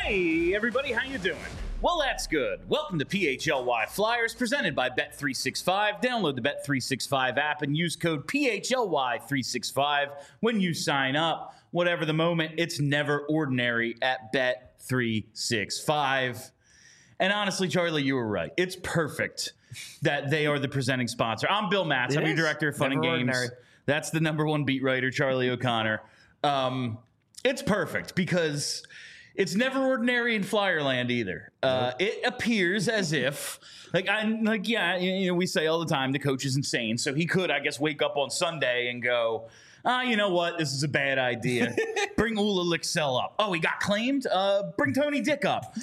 Hey, everybody, how you doing? Well, that's good. Welcome to PHLY Flyers, presented by Bet365. Download the Bet365 app and use code PHLY365 when you sign up. Whatever the moment, it's never ordinary at Bet365. And honestly, Charlie, you were right. It's perfect that they are the presenting sponsor. I'm Bill Matz. I'm your director of Fun and Games. Ordinary. That's the number one beat writer, Charlie O'Connor. It's perfect because it's never ordinary in Flyerland either. It appears as if, we say all the time the coach is insane, so he could, I guess, wake up on Sunday and go, you know what? This is a bad idea. Bring Ula Lixell up. Oh, he got claimed? Bring Tony Dick up.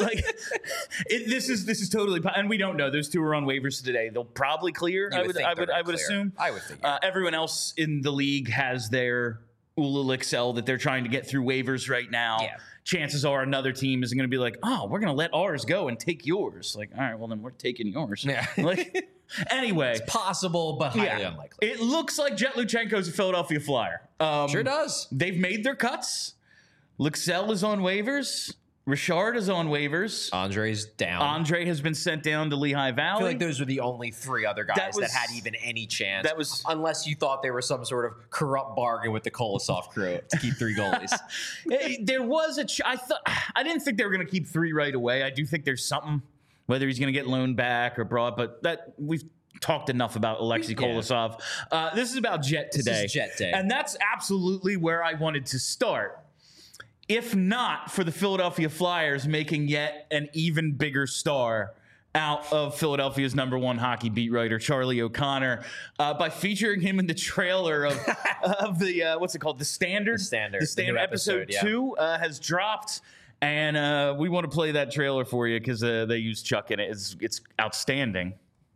This is totally, and we don't know. Those two are on waivers today. They'll probably clear. I would assume. I would think. Everyone else in the league has their Ula Lixell that they're trying to get through waivers right now. Yeah. Chances are another team is going to be like, oh, we're going to let ours go and take yours. Like, all right, well, then we're taking yours. Yeah. Anyway. It's possible, but highly unlikely. It looks like Jet Luchenko's a Philadelphia Flyer. Sure does. They've made their cuts. Lixell is on waivers. Richard is on waivers. Andre's down. Andre has been sent down to Lehigh Valley. I feel like those were the only three other guys that had even any chance. Unless you thought they were some sort of corrupt bargain with the Kolosov crew to keep three goalies. There was I didn't think they were going to keep three right away. I do think there's something, whether he's going to get loaned back or brought, but that we've talked enough about Alexei Kolosov. This is about Jet today. This is Jet Day. And that's absolutely where I wanted to start. If not for the Philadelphia Flyers making yet an even bigger star out of Philadelphia's number one hockey beat writer, Charlie O'Connor, by featuring him in the trailer of the, what's it called? The Standard? The Standard. The Standard episode 2 has dropped. And we want to play that trailer for you because they use Chuck in it. It's outstanding.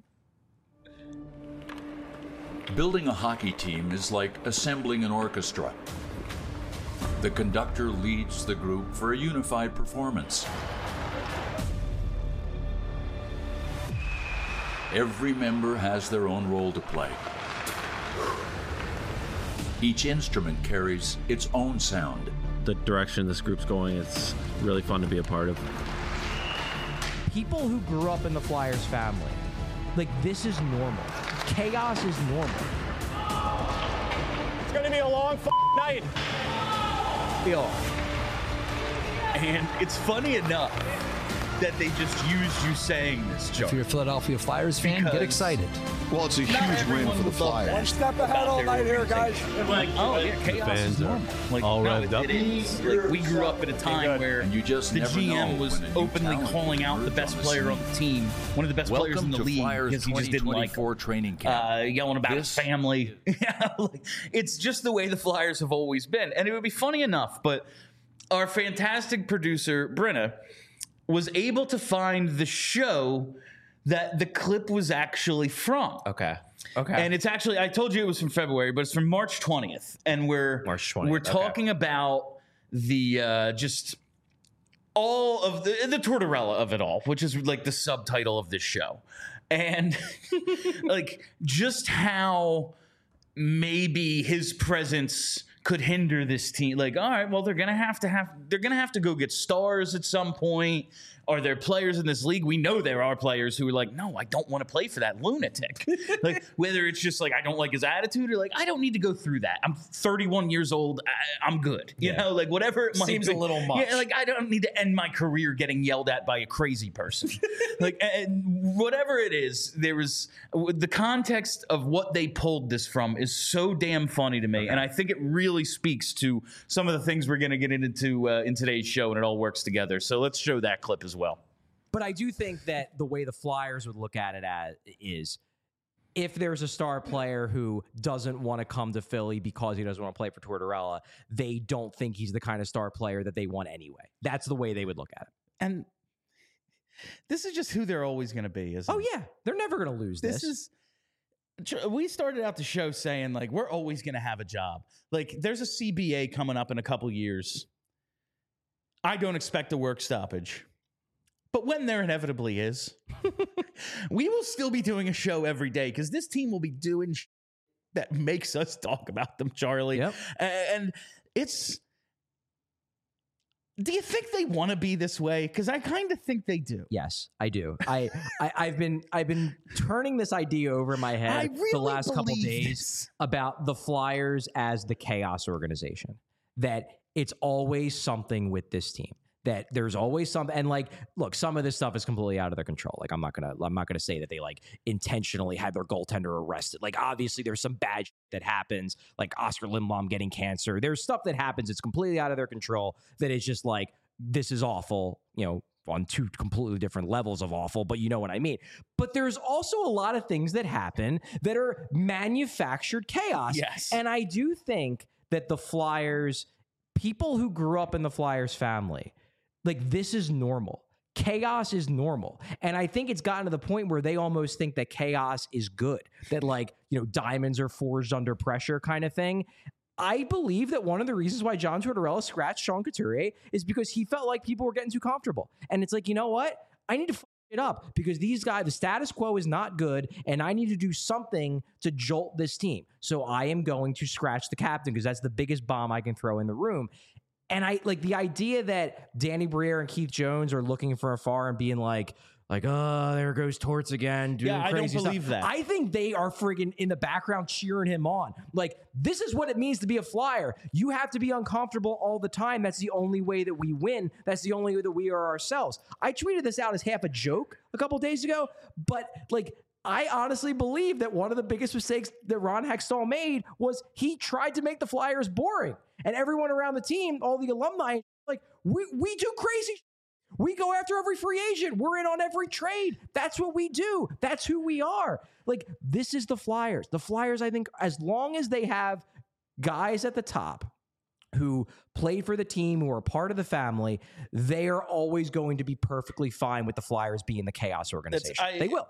Building a hockey team is like assembling an orchestra. The conductor leads the group for a unified performance. Every member has their own role to play. Each instrument carries its own sound. The direction this group's going, it's really fun to be a part of. People who grew up in the Flyers family, like, this is normal. Chaos is normal. It's gonna be a long night. And it's funny enough that they just used you saying this, Joe. If you're a Philadelphia Flyers fan, get excited. Well, it's a huge win for the Flyers. One step ahead all night here, guys. Like, chaos is normal. Like, all revved up. It is. Like, we grew up at a time where you just the never GM know was openly calling out the best player on the team, one of the best players in the league, because he just didn't like training camp. Yelling about his family. It's just the way the Flyers have always been. And it would be funny enough, but our fantastic producer, Brenna, was able to find the show that the clip was actually from. Okay. And it's actually, I told you it was from February, but it's from March 20th. And we're talking about the just all of the Tortorella of it all, which is like the subtitle of this show. And like just how maybe his presence could hinder this team. Like, all right, well, they're gonna have to go get stars at some point. Are there players in this league? We know there are players who are like, no, I don't want to play for that lunatic. Like, whether it's just like I don't like his attitude, or like I don't need to go through that. I'm 31 years old. I'm good. You know, like whatever it might seems be. A little much. Yeah, like I don't need to end my career getting yelled at by a crazy person. Like, and whatever it is, there was the context of what they pulled this from is so damn funny to me, and I think it really speaks to some of the things we're going to get into in today's show, and it all works together. So let's show that clip as well. But I do think that the way the Flyers would look at it as is, if there's a star player who doesn't want to come to Philly because he doesn't want to play for Tortorella, they don't think he's the kind of star player that they want anyway. That's the way they would look at it. And this is just who they're always going to be, isn't it? Oh, yeah. They're never going to lose this. We started out the show saying, like, we're always going to have a job. Like, there's a CBA coming up in a couple years. I don't expect a work stoppage. But when there inevitably is, we will still be doing a show every day because this team will be doing that makes us talk about them, Charlie. Yep. And it's Do you think they want to be this way? Because I kind of think they do. Yes, I do. I've been turning this idea over in my head the last couple days about the Flyers as the chaos organization. That it's always something with this team. That there's always something, and like, look, some of this stuff is completely out of their control. Like, I'm not gonna say that they like intentionally had their goaltender arrested. Like, obviously, there's some bad shit that happens, like Oscar Lindblom getting cancer. There's stuff that happens. It's completely out of their control. That is just like, this is awful. You know, on two completely different levels of awful, but you know what I mean. But there's also a lot of things that happen that are manufactured chaos. Yes, and I do think that the Flyers, people who grew up in the Flyers family. Like, this is normal. Chaos is normal. And I think it's gotten to the point where they almost think that chaos is good. That, like, you know, diamonds are forged under pressure kind of thing. I believe that one of the reasons why John Tortorella scratched Sean Couturier is because he felt like people were getting too comfortable. And it's like, you know what? I need to fuck it up because these guys, the status quo is not good, and I need to do something to jolt this team. So I am going to scratch the captain because that's the biggest bomb I can throw in the room. And I like the idea that Danny Briere and Keith Jones are looking from afar and being like, oh, there goes Torts again. Doing crazy I don't believe stuff. that. I think they are friggin' in the background cheering him on. Like, this is what it means to be a Flyer. You have to be uncomfortable all the time. That's the only way that we win. That's the only way that we are ourselves. I tweeted this out as half a joke a couple days ago, but like, I honestly believe that one of the biggest mistakes that Ron Hextall made was he tried to make the Flyers boring. And everyone around the team, all the alumni, like, we do crazy. We go after every free agent. We're in on every trade. That's what we do. That's who we are. Like, this is the Flyers. The Flyers, I think, as long as they have guys at the top who play for the team, who are part of the family, they are always going to be perfectly fine with the Flyers being the chaos organization. They will.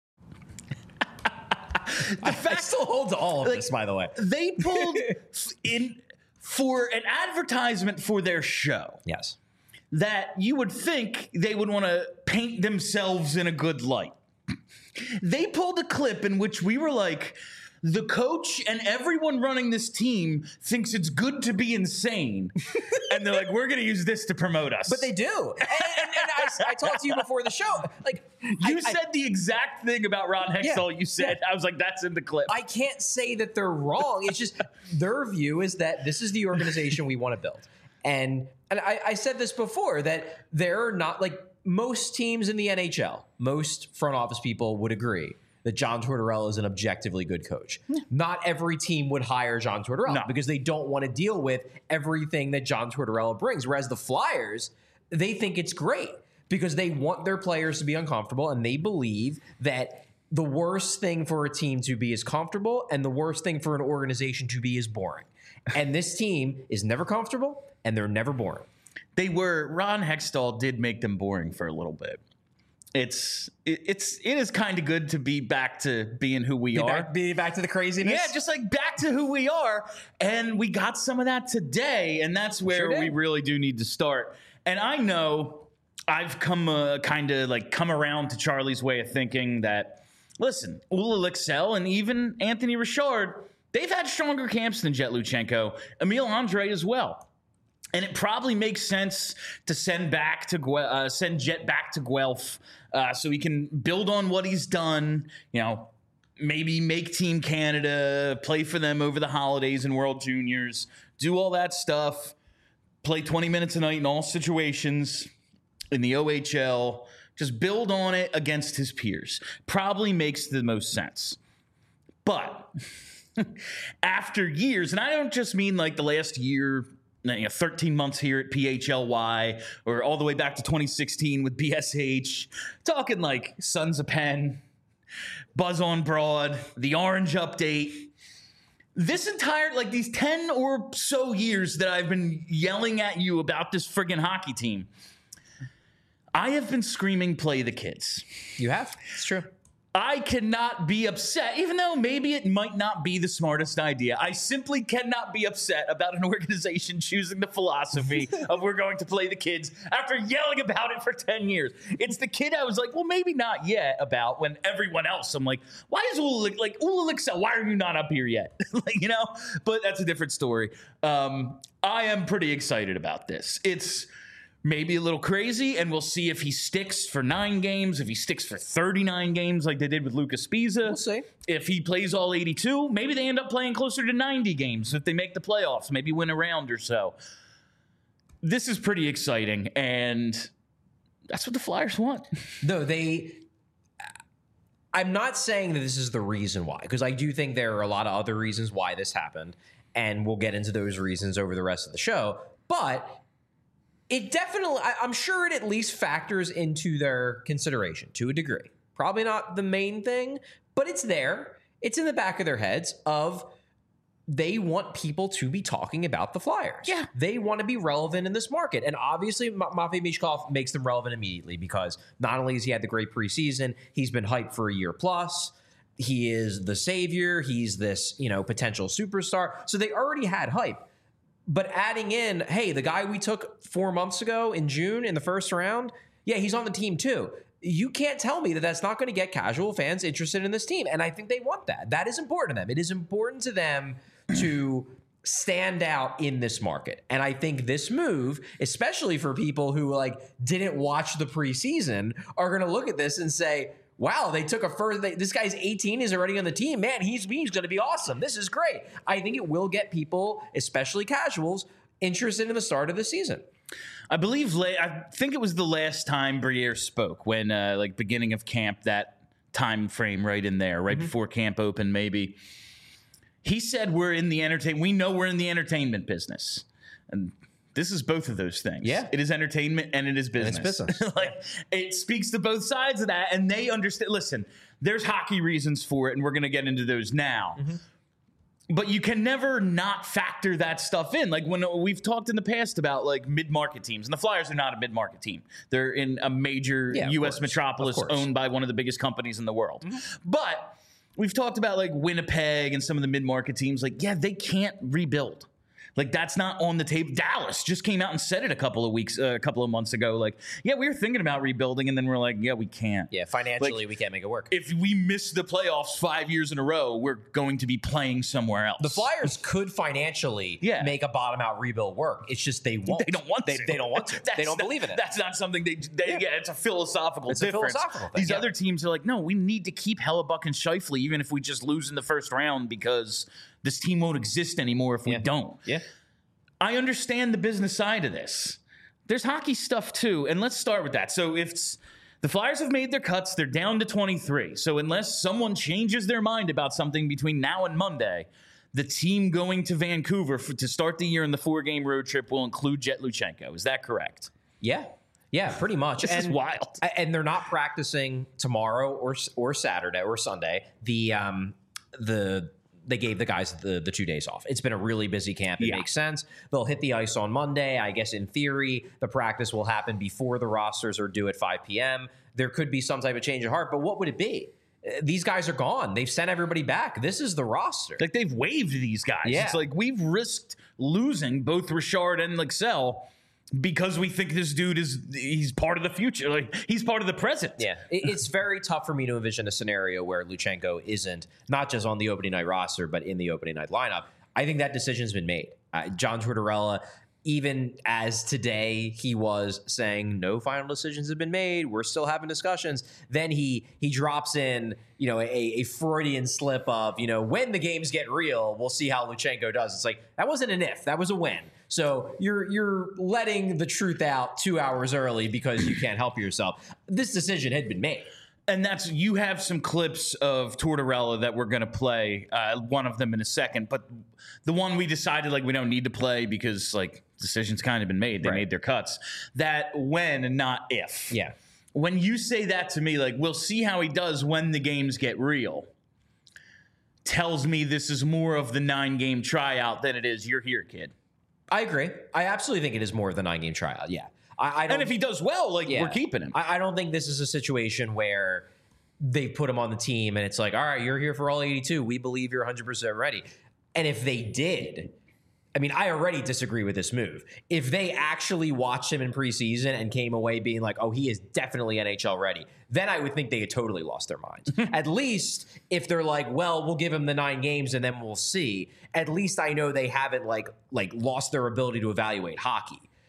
I still hold to all of this, by the way. They pulled in for an advertisement for their show. Yes. That you would think they would want to paint themselves in a good light. They pulled a clip in which we were like, the coach and everyone running this team thinks it's good to be insane. And they're like, we're going to use this to promote us. But they do. And I talked to you before the show. Like, you said the exact thing about Ron Hextall. You said, I was like, that's in the clip. I can't say that they're wrong. It's just their view is that this is the organization we want to build. And I said this before, that they're not like most teams in the NHL, most front office people would agree that John Tortorella is an objectively good coach. Not every team would hire John Tortorella because they don't want to deal with everything that John Tortorella brings. Whereas the Flyers, they think it's great because they want their players to be uncomfortable, and they believe that the worst thing for a team to be is comfortable and the worst thing for an organization to be is boring. And this team is never comfortable and they're never boring. Ron Hextall did make them boring for a little bit. It is kind of good to be back to being who we are. Be back to the craziness. Yeah, just like back to who we are. And we got some of that today. And that's where we really do need to start. And I know I've come around to Charlie's way of thinking that, listen, Ula Lixell and even Anthony Richard, they've had stronger camps than Jet Luchenko. Emil Andre as well. And it probably makes sense to send Jet back to Guelph so he can build on what he's done. You know, maybe make Team Canada, play for them over the holidays and World Juniors, do all that stuff, play 20 minutes a night in all situations in the OHL, just build on it against his peers. Probably makes the most sense. But after years, and I don't just mean like the last year, 13 months here at PHLY, or all the way back to 2016 with BSH, talking like Sons of Penn, Buzz on Broad, the Orange Update. This entire, like these 10 or so years that I've been yelling at you about this friggin' hockey team, I have been screaming, play the kids. You have? It's true. I cannot be upset, even though maybe it might not be the smartest idea. I simply cannot be upset about an organization choosing the philosophy of we're going to play the kids after yelling about it for 10 years. It's the kid I was like, well, maybe not yet about, when everyone else, I'm like, why is Ula Lixell, why are you not up here yet? But that's a different story. I am pretty excited about this. maybe a little crazy, and we'll see if he sticks for 9 games, if he sticks for 39 games like they did with Lucas Spiza. We'll see. If he plays all 82, maybe they end up playing closer to 90 games if they make the playoffs, maybe win a round or so. This is pretty exciting, and that's what the Flyers want. No, I'm not saying that this is the reason why, because I do think there are a lot of other reasons why this happened, and we'll get into those reasons over the rest of the show. But it definitely, I'm sure it at least factors into their consideration to a degree. Probably not the main thing, but it's there. It's in the back of their heads of they want people to be talking about the Flyers. Yeah. They want to be relevant in this market. And obviously, Matvei Michkov makes them relevant immediately because not only has he had the great preseason, he's been hyped for a year plus. He is the savior. He's this, potential superstar. So they already had hype. But adding in, hey, the guy we took 4 months ago in June in the first round, yeah, he's on the team too. You can't tell me that that's not going to get casual fans interested in this team. And I think they want that. That is important to them. It is important to them to stand out in this market. And I think this move, especially for people who didn't watch the preseason, are going to look at this and say, wow, they took a first. This guy's 18, is already on the team. Man, he's going to be awesome. This is great. I think it will get people, especially casuals, interested in the start of the season. I think it was the last time Briere spoke when, beginning of camp, that time frame right in there, right before camp opened, maybe. He said we know we're in the entertainment business. And this is both of those things. Yeah. It is entertainment and it is business. And it's business. It speaks to both sides of that, and they understand. Listen, there's hockey reasons for it, and we're going to get into those now. Mm-hmm. But you can never not factor that stuff in. Like when we've talked in the past about mid-market teams, and the Flyers are not a mid-market team. They're in a major U.S. metropolis owned by one of the biggest companies in the world. Mm-hmm. But we've talked about Winnipeg and some of the mid-market teams. They can't rebuild. That's not on the table. Dallas just came out and said it a couple of months ago. We were thinking about rebuilding, and then we're we can't. Yeah, financially, we can't make it work. If we miss the playoffs 5 years in a row, we're going to be playing somewhere else. The Flyers could financially make a bottom-out rebuild work. It's just they won't. They don't want to. They don't want to. They don't believe in it. That's not something it's a philosophical difference. A philosophical thing. These other teams are no, we need to keep Hellebuck and Scheifele even if we just lose in the first round because this team won't exist anymore if we don't. Yeah. I understand the business side of this. There's hockey stuff too, and let's start with that. So if the Flyers have made their cuts, they're down to 23. So unless someone changes their mind about something between now and Monday, the team going to Vancouver to start the year in the 4-game road trip will include Jet Luchenko. Is that correct? Yeah. Yeah, pretty much. This is wild. And they're not practicing tomorrow or Saturday or Sunday. They gave the guys the 2 days off. It's been a really busy camp. It makes sense. They'll hit the ice on Monday. I guess in theory, the practice will happen before the rosters are due at 5 p.m. There could be some type of change of heart, but what would it be? These guys are gone. They've sent everybody back. This is the roster. They've waived these guys. Yeah. It's we've risked losing both Richard and Lexell because we think this dude he's part of the future. He's part of the present. Yeah. It's very tough for me to envision a scenario where Luchenko isn't not just on the opening night roster, but in the opening night lineup. I think that decision's been made. John Tortorella, even as today he was saying no final decisions have been made, we're still having discussions. Then he drops in, a Freudian slip of, when the games get real, we'll see how Luchenko does. It's that wasn't an if, that was a when. So you're letting the truth out 2 hours early because you can't help yourself. This decision had been made. And you have some clips of Tortorella that we're going to play, one of them in a second. But the one we decided we don't need to play because decision's kind of been made. They made their cuts. That when and not if. Yeah. When you say that to me, we'll see how he does when the games get real, tells me this is more of the 9-game tryout than it is you're here, kid. I agree. I absolutely think it is more of the 9-game tryout. Yeah. I don't, and if he does well, we're keeping him. I don't think this is a situation where they put him on the team and it's all right, you're here for all 82. We believe you're 100% ready. And if they did, I already disagree with this move. If they actually watched him in preseason and came away being he is definitely NHL ready, then I would think they had totally lost their minds. At least if they're we'll give him the 9 games and then we'll see. At least I know they haven't lost their ability to evaluate hockey.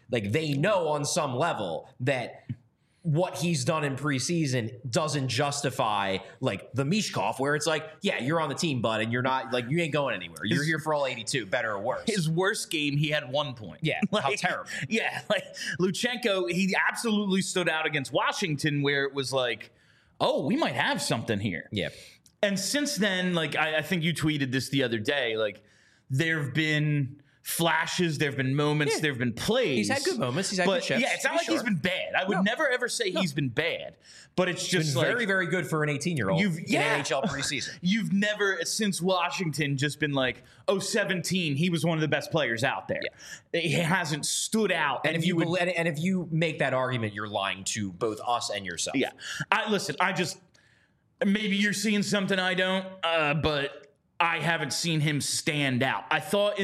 Like they know on some level that what he's done in preseason doesn't justify like the Mishkov, where it's like, yeah, you're on the team, bud, and you're not like you ain't going anywhere. You're here for all 82, better or worse. His worst game, he had 1 point. Yeah, how terrible. Yeah, like Luchenko, he absolutely stood out against Washington, where it was like, oh, we might have something here. Yeah. And since then, like I think you tweeted this the other day, like there have been flashes, there have been moments, there have been plays. He's had good moments. He's had good shifts. Yeah, it's not like he's been bad. I would never ever say he's been bad, but it's just been like very, very good for an 18-year-old in NHL preseason. You've never, since Washington, just been like, 17, he was one of the best players out there. Yeah. He hasn't stood out. And if you make that argument, you're lying to both us and yourself. Yeah. Maybe you're seeing something I don't, but I haven't seen him stand out. I thought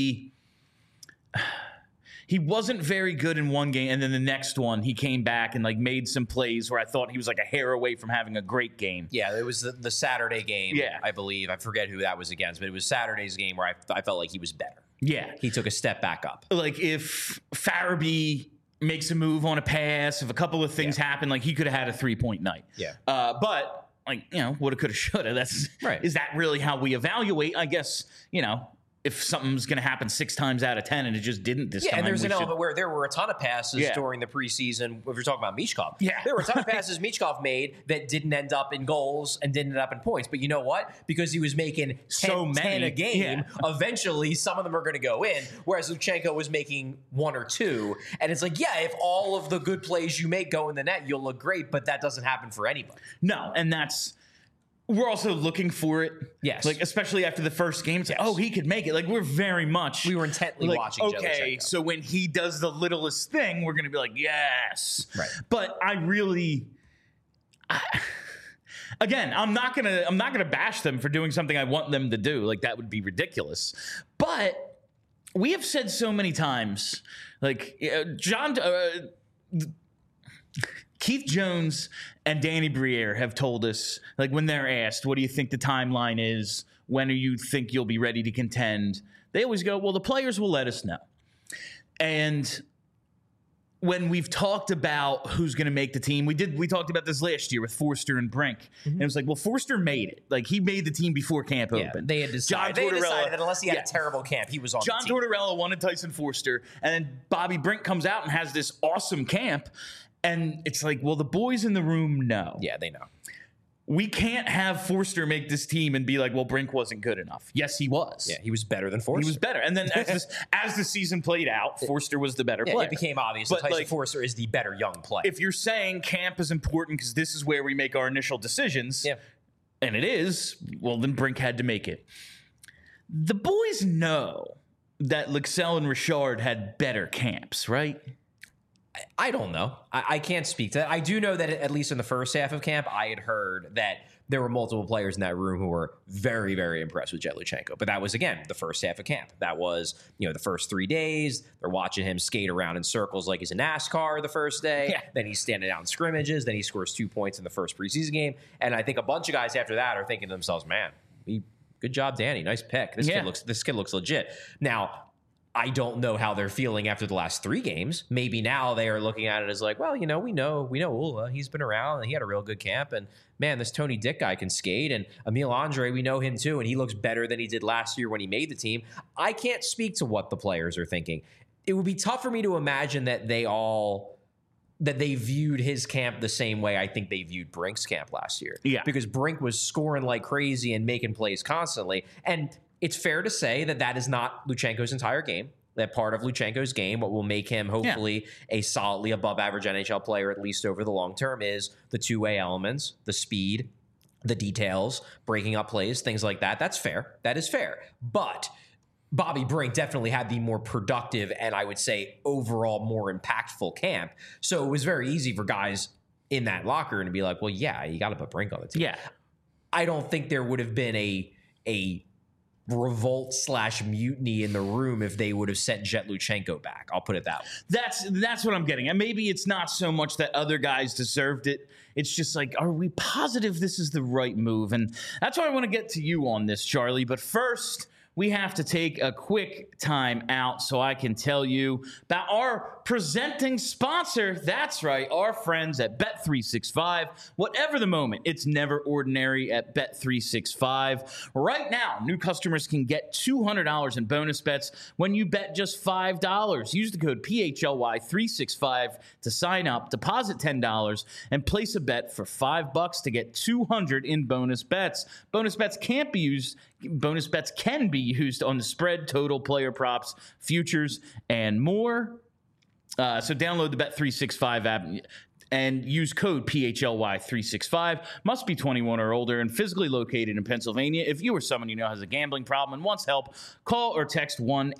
he wasn't very good in one game, and then the next one he came back and like made some plays where I thought he was like a hair away from having a great game. Yeah, it was the Saturday game, I believe. I forget who that was against, but it was Saturday's game where I felt like he was better. Yeah. He took a step back up. Like if Farabee makes a move on a pass, if a couple of things happen, like he could have had a 3-point night. Yeah. But like, woulda, coulda, shoulda. That's right. Is that really how we evaluate? I guess, if something's going to happen 6 times out of 10 and it just didn't this time. Yeah, and there's an element where there were a ton of passes during the preseason. If you're talking about Mishkov, there were a ton of passes Mishkov made that didn't end up in goals and didn't end up in points. But you know what? Because he was making 10 a game, eventually some of them are going to go in, whereas Luchenko was making 1 or 2. And it's like, yeah, if all of the good plays you make go in the net, you'll look great, but that doesn't happen for anybody. No, and we're also looking for it. Yes. Like, especially after the first game. It's like, oh, he could make it. Like, we were intently watching okay, so when he does the littlest thing, we're going to be like, yes. Right. But again, I'm not going to bash them for doing something I want them to do. Like, that would be ridiculous. But we have said so many times, like, Keith Jones and Danny Briere have told us, like when they're asked, what do you think the timeline is? When do you think you'll be ready to contend? They always go, well, the players will let us know. And when we've talked about who's going to make the team, we talked about this last year with Forster and Brink. Mm-hmm. And it was like, well, Forster made it. Like he made the team before camp opened. They had decided that unless he had a terrible camp, he was on John the team. Tortorella wanted Tyson Forster, and then Bobby Brink comes out and has this awesome camp. And it's like, well, the boys in the room know. Yeah, they know. We can't have Forster make this team and be like, well, Brink wasn't good enough. Yes, he was. Yeah, he was better than Forster. He was better. And then as the season played out, Forster was the better player. It became obvious that Tyson Forster is the better young player. If you're saying camp is important because this is where we make our initial decisions, and it is, well, then Brink had to make it. The boys know that Lexell and Richard had better camps, right? I don't know. I can't speak to that. I do know that at least in the first half of camp, I had heard that there were multiple players in that room who were very, very impressed with Jet Luchenko. But that was, again, the first half of camp. That was, the first 3 days. They're watching him skate around in circles like he's a NASCAR the first day. Yeah. Then he's standing out in scrimmages. Then he scores 2 points in the first preseason game. And I think a bunch of guys after that are thinking to themselves, man, good job, Danny. Nice pick. This kid looks legit. Now, I don't know how they're feeling after the last 3 games. Maybe now they are looking at it as like, well, we know Ula. He's been around and he had a real good camp. And man, this Tony Dick guy can skate. And Emile Andre, we know him too. And he looks better than he did last year when he made the team. I can't speak to what the players are thinking. It would be tough for me to imagine that they viewed his camp the same way I think they viewed Brink's camp last year. Yeah. Because Brink was scoring like crazy and making plays constantly. And it's fair to say that is not Luchenko's entire game. That part of Luchenko's game, what will make him hopefully a solidly above average NHL player, at least over the long term, is the two-way elements, the speed, the details, breaking up plays, things like that. That's fair. That is fair. But Bobby Brink definitely had the more productive and I would say overall more impactful camp. So it was very easy for guys in that locker room to be like, well, yeah, you got to put Brink on the team. Yeah. I don't think there would have been a revolt/mutiny in the room if they would have sent Jet Luchenko back. I'll put it that way. That's what I'm getting. And maybe it's not so much that other guys deserved it. It's just like, are we positive this is the right move? And that's why I want to get to you on this, Charlie. But first, we have to take a quick time out so I can tell you about our presenting sponsor. That's right, our friends at Bet365. Whatever the moment, it's never ordinary at Bet365. Right now, new customers can get $200 in bonus bets when you bet just $5. Use the code PHLY365 to sign up, deposit $10, and place a bet for $5 to get $200 in bonus bets. Bonus bets can be used on the spread, total, player props, futures, and more. So download the Bet365 app and use code PHLY365. Must be 21 or older and physically located in Pennsylvania. If you or someone you know has a gambling problem and wants help, call or text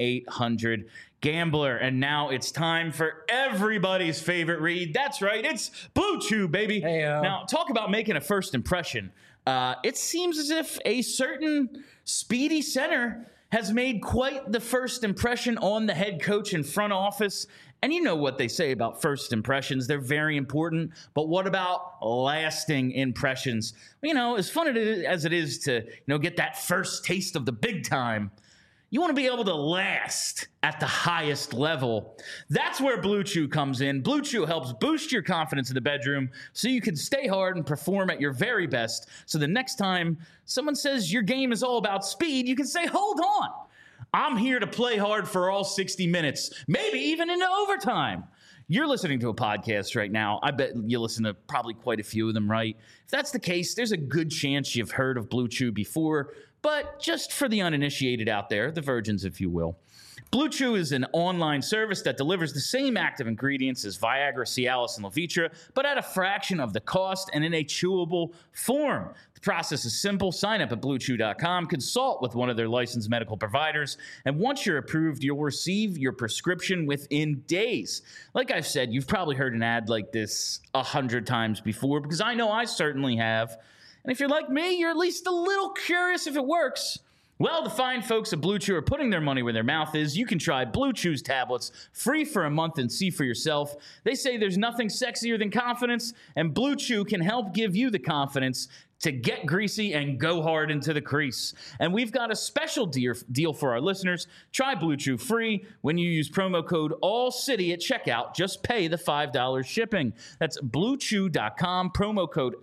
1-800-GAMBLER. And now it's time for everybody's favorite read. That's right, it's Blue Chew, baby. Hey-o. Now, talk about making a first impression. It seems as if a certain speedy center has made quite the first impression on the head coach and front office. And you know what they say about first impressions. They're very important. But what about lasting impressions? You know, as fun as it is to, get that first taste of the big time, you want to be able to last at the highest level. That's where Blue Chew comes in. Blue Chew helps boost your confidence in the bedroom so you can stay hard and perform at your very best. So the next time someone says your game is all about speed, you can say, hold on. I'm here to play hard for all 60 minutes, maybe even into overtime. You're listening to a podcast right now. I bet you listen to probably quite a few of them, right? If that's the case, there's a good chance you've heard of Blue Chew before. But just for the uninitiated out there, the virgins, if you will, Blue Chew is an online service that delivers the same active ingredients as Viagra, Cialis, and Levitra, but at a fraction of the cost and in a chewable form. The process is simple. Sign up at BlueChew.com, consult with one of their licensed medical providers, and once you're approved, you'll receive your prescription within days. Like I've said, you've probably heard an ad like this 100 times before, because I know I certainly have. And if you're like me, you're at least a little curious if it works. Well, the fine folks at Blue Chew are putting their money where their mouth is. You can try Blue Chew's tablets free for a month and see for yourself. They say there's nothing sexier than confidence, and Blue Chew can help give you the confidence to get greasy and go hard into the crease. And we've got a special deal for our listeners. Try Blue Chew free when you use promo code ALLCITY at checkout. Just pay the $5 shipping. That's BlueChew.com, promo code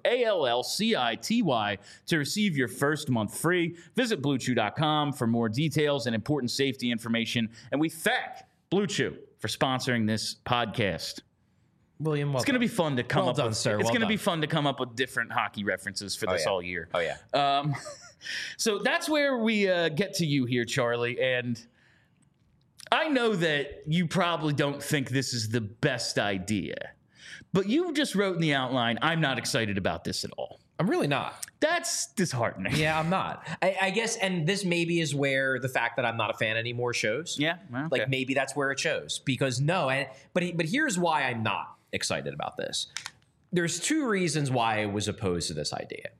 ALLCITY to receive your first month free. Visit BlueChew.com for more details and important safety information. And we thank Blue Chew for sponsoring this podcast. William, it's going to be fun to come well up done, with. Sir. It's well going to done. be fun to come up with different hockey references for this all year. Oh yeah. So that's where we get to you here, Charlie. And I know that you probably don't think this is the best idea, but you just wrote in the outline, "I'm not excited about this at all." I'm really not. That's disheartening. Yeah, I'm not. I guess, and this maybe is where the fact that I'm not a fan anymore shows. Yeah, well, okay. Like maybe that's where it shows. Because but here's why I'm not excited about this. There's two reasons why I was opposed to this idea.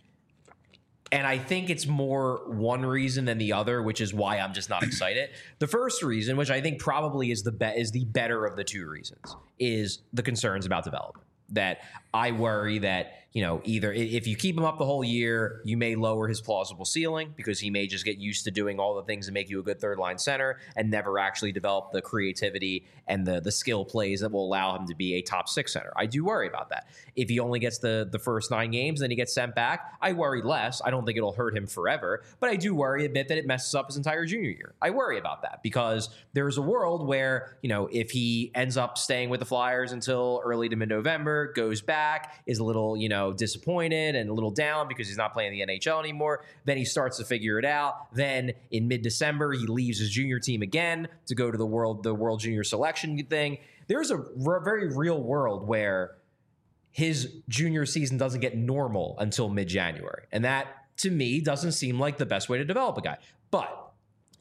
And I think it's more one reason than the other, which is why I'm just not excited. The first reason, which I think probably is the better of the two reasons, is the concerns about development. That I worry that, either if you keep him up the whole year, you may lower his plausible ceiling because he may just get used to doing all the things that make you a good third line center and never actually develop the creativity and the skill plays that will allow him to be a top six center. I do worry about that. If he only gets the first 9 games, then he gets sent back, I worry less. I don't think it'll hurt him forever, but I do worry a bit that it messes up his entire junior year. I worry about that because there's a world where, if he ends up staying with the Flyers until early to mid-November, goes back, is a little, disappointed and a little down because he's not playing the NHL anymore. Then he starts to figure it out. Then in mid-December, he leaves his junior team again to go to the World Junior Selection thing. There's a very real world where his junior season doesn't get normal until mid-January. And that, to me, doesn't seem like the best way to develop a guy. But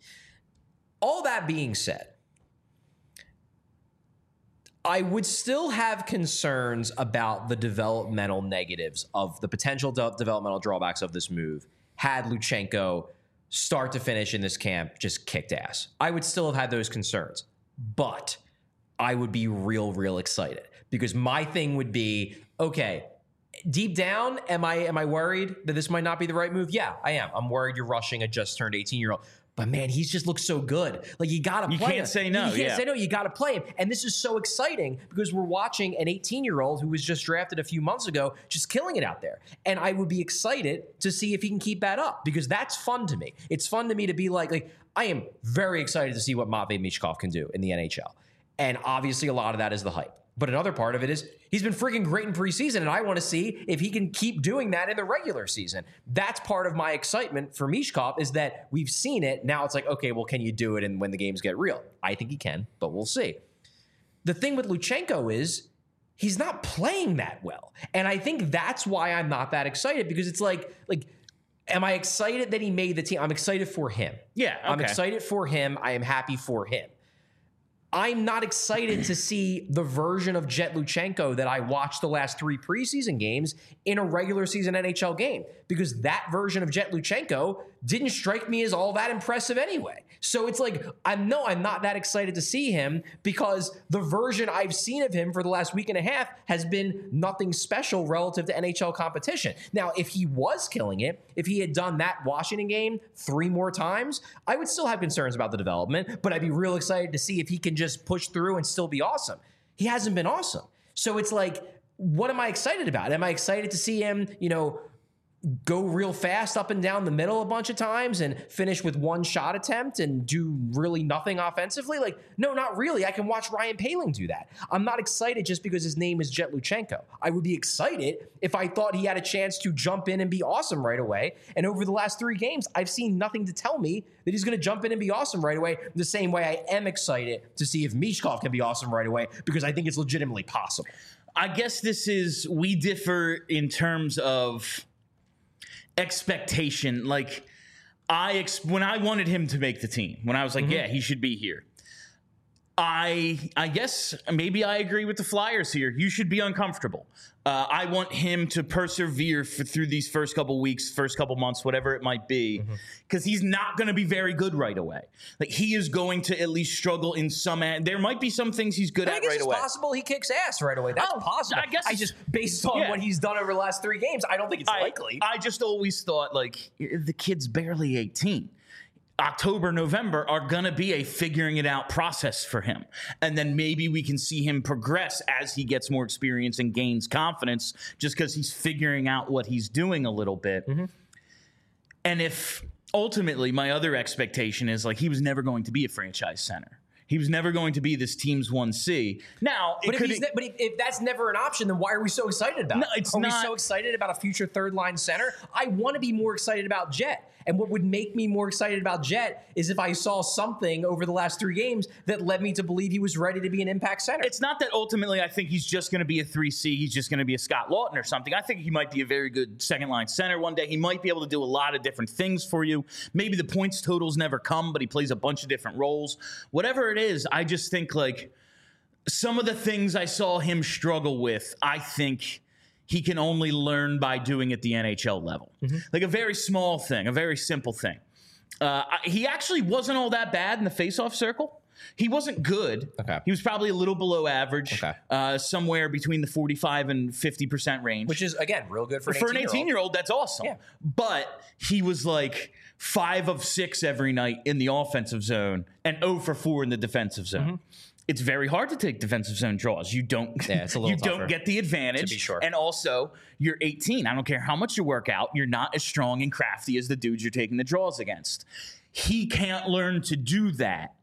all that being said, I would still have concerns about the developmental negatives of the potential developmental drawbacks of this move had Luchenko start to finish in this camp just kicked ass. I would still have had those concerns, but I would be real excited because my thing would be, okay, deep down, am I worried that this might not be the right move? Yeah, I am. I'm worried you're rushing a just turned 18-year-old. But man, he's just looked so good. Like you got to play him. You can't say no. You can't say no. You got to play him. And this is so exciting because we're watching an 18-year-old who was just drafted a few months ago just killing it out there. And I would be excited to see if he can keep that up because that's fun to me. It's fun to me to be like I am very excited to see what Matvei Michkov can do in the NHL. And obviously a lot of that is the hype. But another part of it is he's been freaking great in preseason, and I want to see if he can keep doing that in the regular season. That's part of my excitement for Michkov is that we've seen it. Now it's like, okay, well, can you do it and when the games get real? I think he can, but we'll see. The thing with Luchenko is he's not playing that well. And I think that's why I'm not that excited because it's like, am I excited that he made the team? I'm excited for him. Yeah, okay. I'm excited for him. I am happy for him. I'm not excited to see the version of Jet Luchenko that I watched the last 3 preseason games in a regular season NHL game because that version of Jet Luchenko didn't strike me as all that impressive anyway. So it's like, I'm not that excited to see him because the version I've seen of him for the last week and a half has been nothing special relative to NHL competition. Now, if he was killing it, if he had done that Washington game 3 more times, I would still have concerns about the development, but I'd be real excited to see if he can just push through and still be awesome. He hasn't been awesome. So it's like, what am I excited about? Am I excited to see him, go real fast up and down the middle a bunch of times and finish with 1 shot attempt and do really nothing offensively? Like, no, not really. I can watch Ryan Poehling do that. I'm not excited just because his name is Jet Luchenko. I would be excited if I thought he had a chance to jump in and be awesome right away. And over the last 3 games, I've seen nothing to tell me that he's going to jump in and be awesome right away. The same way I am excited to see if Michkov can be awesome right away because I think it's legitimately possible. I guess we differ in terms of expectation. Like when I wanted him to make the team, when I was like, yeah, he should be here. I guess maybe I agree with the Flyers here. You should be uncomfortable. I want him to persevere through these first couple weeks, first couple months, whatever it might be, because he's not going to be very good right away. Like he is going to at least struggle in some. There might be some things he's good at right away. It's possible he kicks ass right away. That's possible. I guess. I just based on what he's done over the last 3 games, I don't think it's likely. I just always thought like the kid's barely 18. October, November are going to be a figuring it out process for him. And then maybe we can see him progress as he gets more experience and gains confidence just because he's figuring out what he's doing a little bit. And if ultimately my other expectation is like he was never going to be a franchise center. He was never going to be this team's 1C. Now, if that's never an option, then why are we so excited about it? Are we so excited about a future 3rd-line center? I want to be more excited about Jet. And what would make me more excited about Jet is if I saw something over the last 3 games that led me to believe he was ready to be an impact center. It's not that ultimately I think he's just going to be a 3C. He's just going to be a Scott Lawton or something. I think he might be a very good second-line center one day. He might be able to do a lot of different things for you. Maybe the points totals never come, but he plays a bunch of different roles. Whatever it is, I just think like some of the things I saw him struggle with, I think he can only learn by doing at the NHL level. Like a very small thing, a very simple thing. He actually wasn't all that bad in the faceoff circle. He wasn't good. Okay. He was probably a little below average, somewhere between the 45 and 50% range. Which is, again, real good for an 18-year-old. For an 18-year-old, that's awesome. Yeah. But he was like 5 of 6 every night in the offensive zone and 0 for 4 in the defensive zone. It's very hard to take defensive zone draws. You don't don't get the advantage. To be sure. And also, you're 18. I don't care how much you work out. You're not as strong and crafty as the dudes you're taking the draws against. He can't learn to do that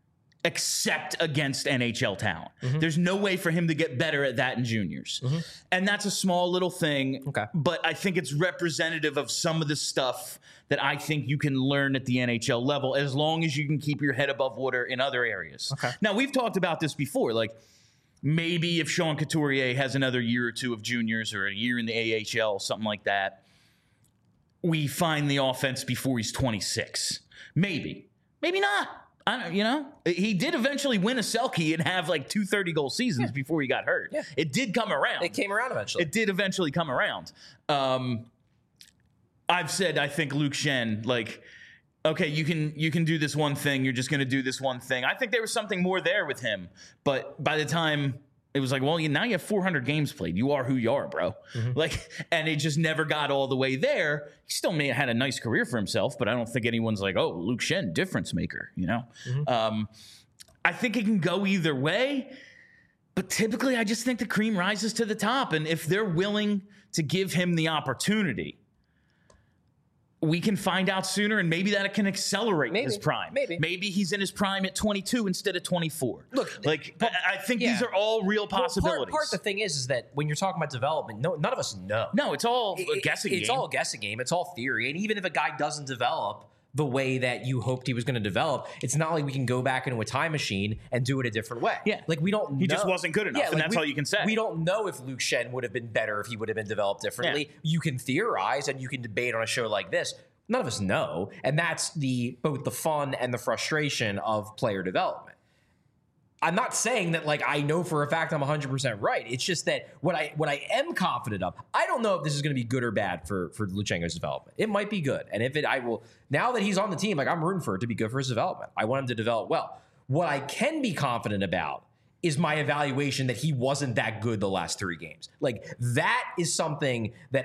except against NHL talent. There's no way for him to get better at that in juniors. And that's a small little thing, but I think it's representative of some of the stuff that I think you can learn at the NHL level as long as you can keep your head above water in other areas. Now, we've talked about this before, like maybe if Sean Couturier has another year or 2 of juniors or a year in the AHL, something like that, we find the offense before he's 26. Maybe not. I don't, he did eventually win a Selke and have like 2 30-goal seasons before he got hurt. Yeah. It did come around. It came around eventually. It did eventually come around. I've said, I think Luke Schenn, like, okay, you can do this one thing. You're just going to do this one thing. I think there was something more there with him. But by the time It was like, well, now you have 400 games played. You are who you are, bro. And it just never got all the way there. He still may have had a nice career for himself, but I don't think anyone's like, oh, Luke Shen, difference maker, I think it can go either way, but typically I just think the cream rises to the top. And if they're willing to give him the opportunity, we can find out sooner, and maybe that can accelerate his prime. Maybe he's in his prime at 22 instead of 24. Look, I think these are all real possibilities. Part the thing is that when you're talking about development, none of us know. No, it's all a guessing game. It's all a guessing game. It's all theory. And even if a guy doesn't develop the way that you hoped he was going to develop, it's not like we can go back into a time machine and do it a different way. Yeah. Like, we don't know. He just wasn't good enough, and that's all you can say. We don't know if Luke Shen would have been better if he would have been developed differently. Yeah. You can theorize and you can debate on a show like this. None of us know. And that's both the fun and the frustration of player development. I'm not saying that, like, I know for a fact I'm 100% right. It's just that what I am confident of, I don't know if this is going to be good or bad for Luchenko's development. It might be good. And if now that he's on the team, like, I'm rooting for it to be good for his development. I want him to develop well. What I can be confident about is my evaluation that he wasn't that good the last 3 games. Like, that is something that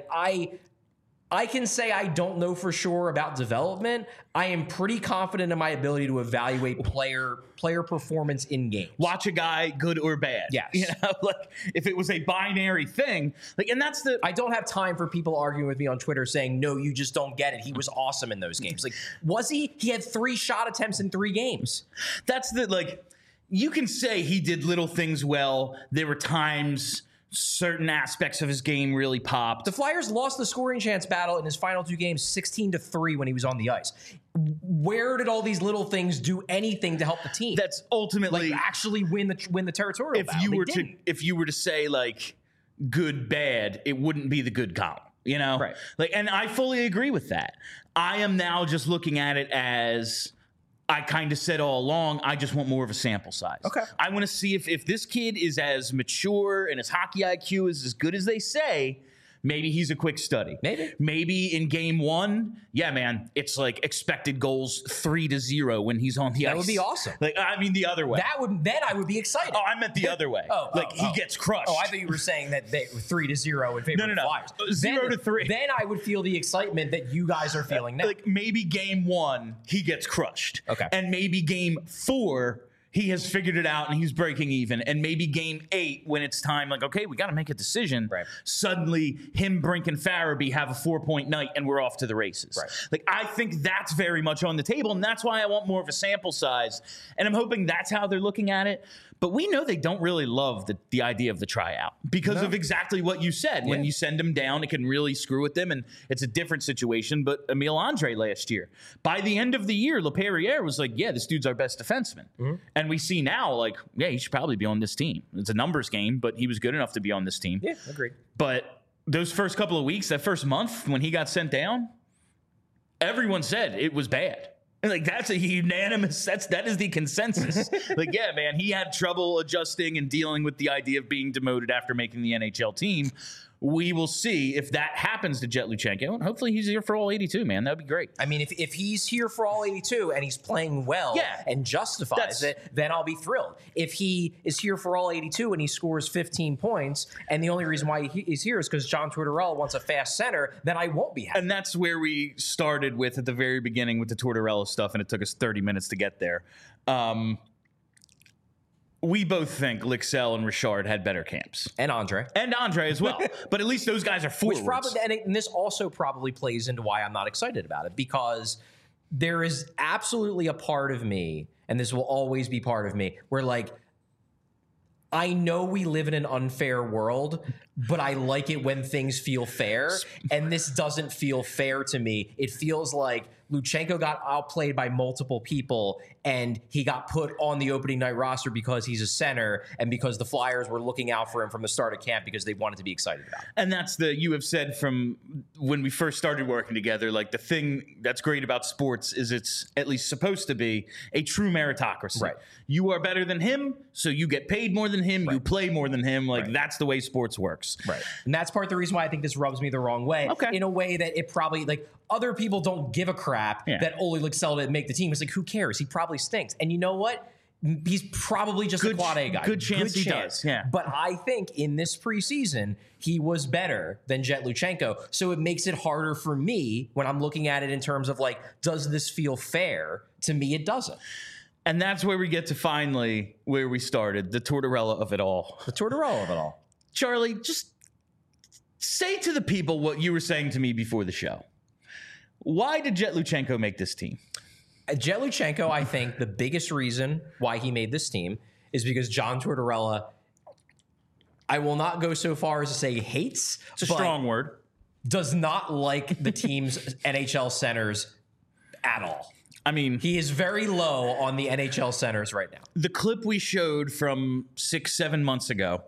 I can say I don't know for sure about development. I am pretty confident in my ability to evaluate player performance in games. Watch a guy, good or bad. Yes. Like, if it was a binary thing, and that's I don't have time for people arguing with me on Twitter saying, no, you just don't get it. He was awesome in those games. Like, was he? He had 3 shot attempts in 3 games. That's you can say he did little things well. There were times certain aspects of his game really popped. The Flyers lost the scoring chance battle in his final 2 games 16-3 when he was on the ice. Where did all these little things do anything to help the team? That's ultimately actually win the territorial battle. If you were to say, like, good bad, it wouldn't be the good column, Right. And I fully agree with that. I am now just looking at it as, I kind of said all along, I just want more of a sample size. Okay. I want to see if this kid is as mature and his hockey IQ is as good as they say. Maybe he's a quick study. Maybe in game 1, yeah, man, it's like expected goals 3-0 when he's on the ice. That would be awesome. Like, I mean, the other way. Then I would be excited. Oh, I meant the other way. He gets crushed. Oh, I thought you were saying that they were 3-0 in favor of the Flyers. 0-3. Then I would feel the excitement that you guys are feeling now. Like, maybe game 1, he gets crushed. Okay. And maybe game 4, he has figured it out and he's breaking even. And maybe game 8, when it's time, like, okay, we got to make a decision. Right. Suddenly, him, Brink, and Farabee have a 4-point night and we're off to the races. Right. Like, I think that's very much on the table, and that's why I want more of a sample size. And I'm hoping that's how they're looking at it. But we know they don't really love the idea of the tryout because of exactly what you said. When you send them down, it can really screw with them, and it's a different situation. But Emile Andre last year, by the end of the year, LaPerriere was like, yeah, this dude's our best defenseman. Mm-hmm. And we see now, like, yeah, he should probably be on this team. It's a numbers game, but he was good enough to be on this team. Yeah, agreed. But those first couple of weeks, that first month when he got sent down, everyone said it was bad. Like, that's a unanimous, that is the consensus. Like, yeah, man, he had trouble adjusting and dealing with the idea of being demoted after making the NHL team. We will see if that happens to Jet Luchenko. And hopefully he's here for all 82, man. That would be great. I mean, if he's here for all 82 and he's playing well and justifies it, then I'll be thrilled. If he is here for all 82 and he scores 15 points, and the only reason why he's here is because John Tortorella wants a fast center, then I won't be happy. And that's where we started with at the very beginning with the Tortorella stuff, and it took us 30 minutes to get there. We both think Lycksell and Richard had better camps. And Andre as well. But at least those guys are forwards. Which probably, and this also probably plays into why I'm not excited about it, because there is absolutely a part of me, and this will always be part of me, where, like, I know we live in an unfair world, but I like it when things feel fair. And this doesn't feel fair to me. It feels like Luchenko got outplayed by multiple people, and he got put on the opening night roster because he's a center and because the Flyers were looking out for him from the start of camp because they wanted to be excited about it. And that's you have said from when we first started working together, like, the thing that's great about sports is it's at least supposed to be a true meritocracy. Right. You are better than him, so you get paid more than him, you play more than him. Like, that's the way sports works. Right. And that's part of the reason why I think this rubs me the wrong way. Okay. In a way that it probably, like, other people don't give a crap that Ole Lycksell didn't make the team. It's like, who cares? He probably stinks. And you know what? He's probably just a quad A guy. Good chance he does, yeah. But I think in this preseason, he was better than Jet Luchenko. So it makes it harder for me when I'm looking at it in terms of like, does this feel fair? To me, it doesn't. And that's where we get to finally where we started, the Tortorella of it all. The Tortorella of it all. Charlie, just say to the people what you were saying to me before the show. Why did Jet Luchenko make this team? Jet Luchenko, I think the biggest reason why he made this team is because John Tortorella, I will not go so far as to say hates. It's a strong word. Does not like the team's NHL centers at all. I mean, he is very low on the NHL centers right now. The clip we showed from 6-7 months ago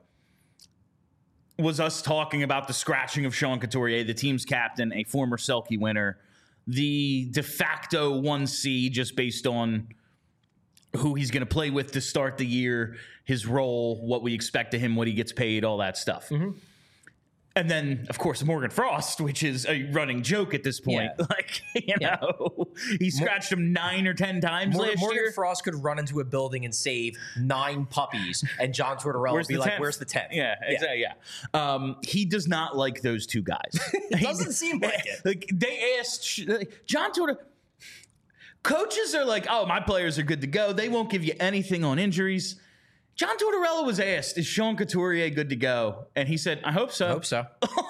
was us talking about the scratching of Sean Couturier, the team's captain, a former Selke winner, the de facto 1C just based on who he's going to play with to start the year, his role, what we expect of him, what he gets paid, all that stuff. Mm-hmm. And then, of course, Morgan Frost, which is a running joke at this point. Yeah. Like, you know, he scratched him 9 or 10 times last year. Morgan Frost could run into a building and save 9 puppies, and John Tortorella would be like, 10th? Where's the 10th? Yeah, exactly. Yeah. He does not like those two guys. It doesn't seem like it. Like, they asked John Tortorella. Coaches are like, oh, my players are good to go. They won't give you anything on injuries. John Tortorella was asked, is Sean Couturier good to go? And he said, I hope so. I hope so.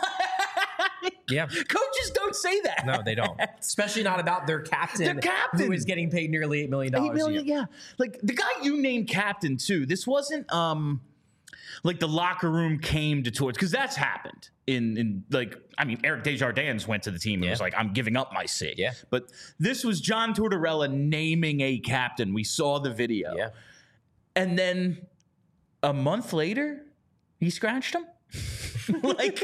Yeah. Coaches don't say that. No, they don't. Especially not about their captain, who is getting paid nearly $8 million a year. Yeah. Like, the guy you named captain, too, this wasn't like the locker room came to Torts, because that's happened. Eric Desjardins went to the team and was like, I'm giving up my seat. Yeah. But this was John Tortorella naming a captain. We saw the video. Yeah. And then a month later, he scratched him. Like,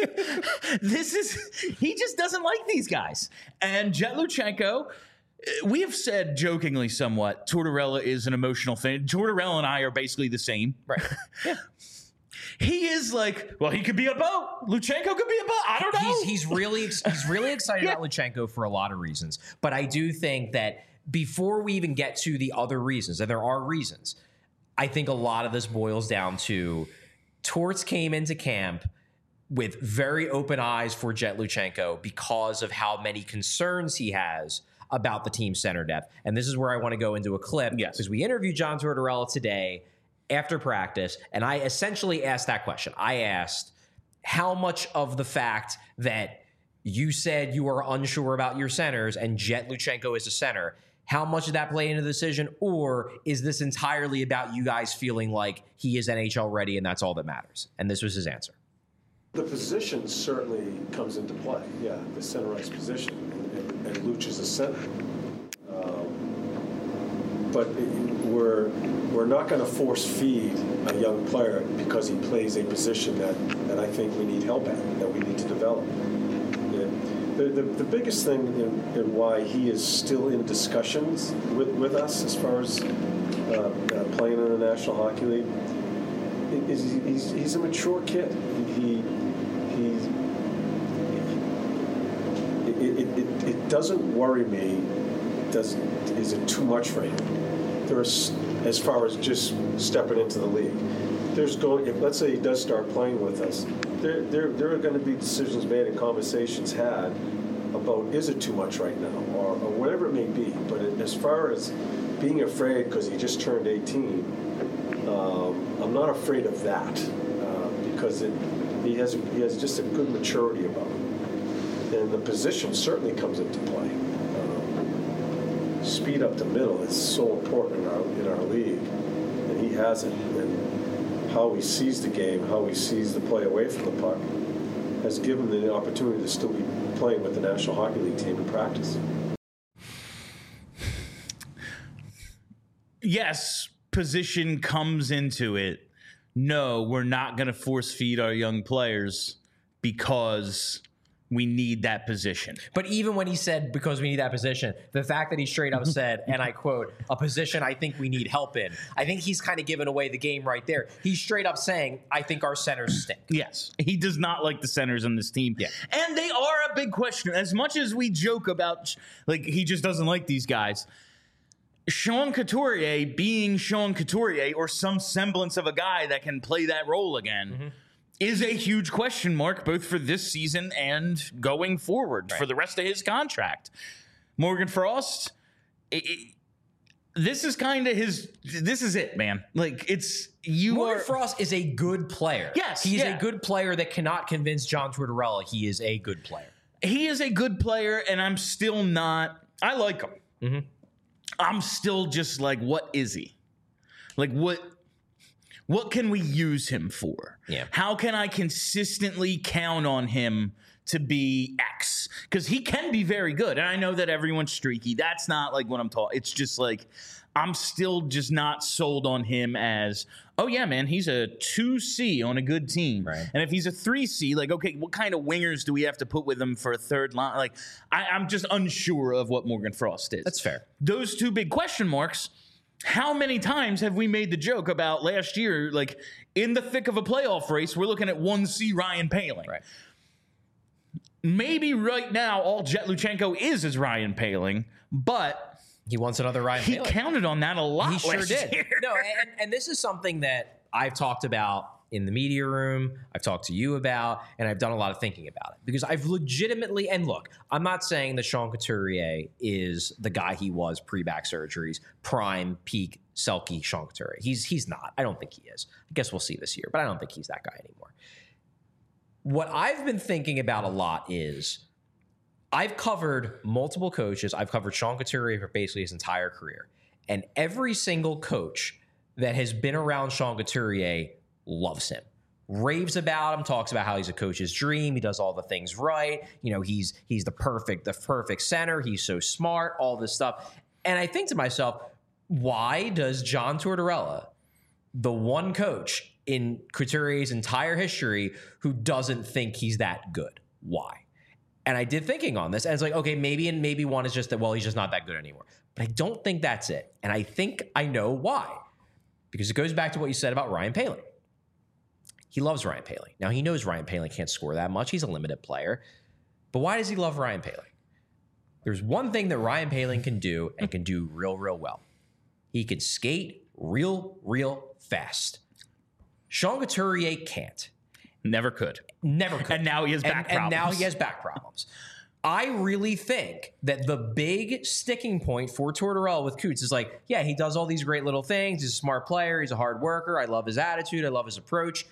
he just doesn't like these guys. And Jet Luchenko, we have said jokingly somewhat, Tortorella is an emotional thing. Tortorella and I are basically the same. Right. Yeah. He is like, well, he could be a boat. Luchenko could be a boat. I don't know. He's really excited about Luchenko for a lot of reasons. But I do think that before we even get to the other reasons, and there are reasons, I think a lot of this boils down to Torts came into camp with very open eyes for Jet Luchenko because of how many concerns he has about the team center depth. And this is where I want to go into a clip. Yes. Because we interviewed John Tortorella today after practice, and I essentially asked that question. I asked, how much of the fact that you said you are unsure about your centers and Jet Luchenko is a center, how much did that play into the decision? Or is this entirely about you guys feeling like he is NHL ready and that's all that matters? And this was his answer. The position certainly comes into play. Yeah, the center ice position. And Luch is a center. But we're not going to force feed a young player because he plays a position that I think we need help at, that we need to develop. The biggest thing in why he is still in discussions with us as far as playing in the National Hockey League is he's a mature kid. It doesn't worry me. Is it too much for him? There's, as far as just stepping into the league, if let's say he does start playing with us, there are going to be decisions made and conversations had about, is it too much right now, or whatever it may be. But as far as being afraid because he just turned 18, I'm not afraid of that because he has just a good maturity about him, and the position certainly comes into play. Speed up the middle is so important in our league, and he has it. And how he sees the game, how he sees the play away from the puck, has given him the opportunity to still be playing with the National Hockey League team in practice. Yes, position comes into it. No, we're not going to force feed our young players because we need that position. But even when he said, because we need that position, the fact that he straight up said, and I quote, a position I think we need help in, I think he's kind of given away the game right there. He's straight up saying, I think our centers stink. Yes. He does not like the centers on this team. Yeah. And they are a big question. As much as we joke about, like, he just doesn't like these guys, Sean Couturier being Sean Couturier or some semblance of a guy that can play that role again is a huge question mark, both for this season and going forward for the rest of his contract. Morgan Frost, this is kind of this is it, man. Like, Morgan Frost is a good player. Yes. He's a good player that cannot convince John Tortorella he is a good player. He is a good player, and I'm still not, I like him. Mm-hmm. I'm still just like, what is he? Like, what can we use him for? Yeah. How can I consistently count on him to be X? Because he can be very good. And I know that everyone's streaky. That's not like what I'm talking. It's just like, I'm still just not sold on him as, oh yeah, man, he's a 2C on a good team. Right. And if he's a 3C, like, okay, what kind of wingers do we have to put with him for a third line? Like, I'm just unsure of what Morgan Frost is. That's fair. Those two big question marks. How many times have we made the joke about last year, like, in the thick of a playoff race, we're looking at 1C Ryan Poehling. Right. Maybe right now all Jet Luchenko is Ryan Poehling, but he wants another Ryan Poehling. He counted on that a lot. He sure did. Year. No, and this is something that I've talked about in the media room, I've talked to you about, and I've done a lot of thinking about it. Because I've legitimately, and look, I'm not saying that Sean Couturier is the guy he was pre-back surgeries, prime, peak, Selke Sean Couturier. He's not. I don't think he is. I guess we'll see this year, but I don't think he's that guy anymore. What I've been thinking about a lot is I've covered multiple coaches. I've covered Sean Couturier for basically his entire career. And every single coach that has been around Sean Couturier loves him, raves about him, talks about how he's a coach's dream. He does all the things right. You know, he's the perfect center. He's so smart, all this stuff. And I think to myself, why does John Tortorella, the one coach in Couturier's entire history who doesn't think he's that good? Why? And I did thinking on this, and it's like, okay, maybe one is just that, well, he's just not that good anymore. But I don't think that's it. And I think I know why. Because it goes back to what you said about Ryan Poehling. He loves Ryan Poehling. Now, he knows Ryan Poehling can't score that much. He's a limited player. But why does he love Ryan Poehling? There's one thing that Ryan Poehling can do and can do real, real well. He can skate real, real fast. Sean Couturier can't. Never could. Never could. And now he has back problems. And now he has back problems. I really think that the big sticking point for Tortorella with Coots is like, yeah, he does all these great little things. He's a smart player. He's a hard worker. I love his attitude. I love his approach.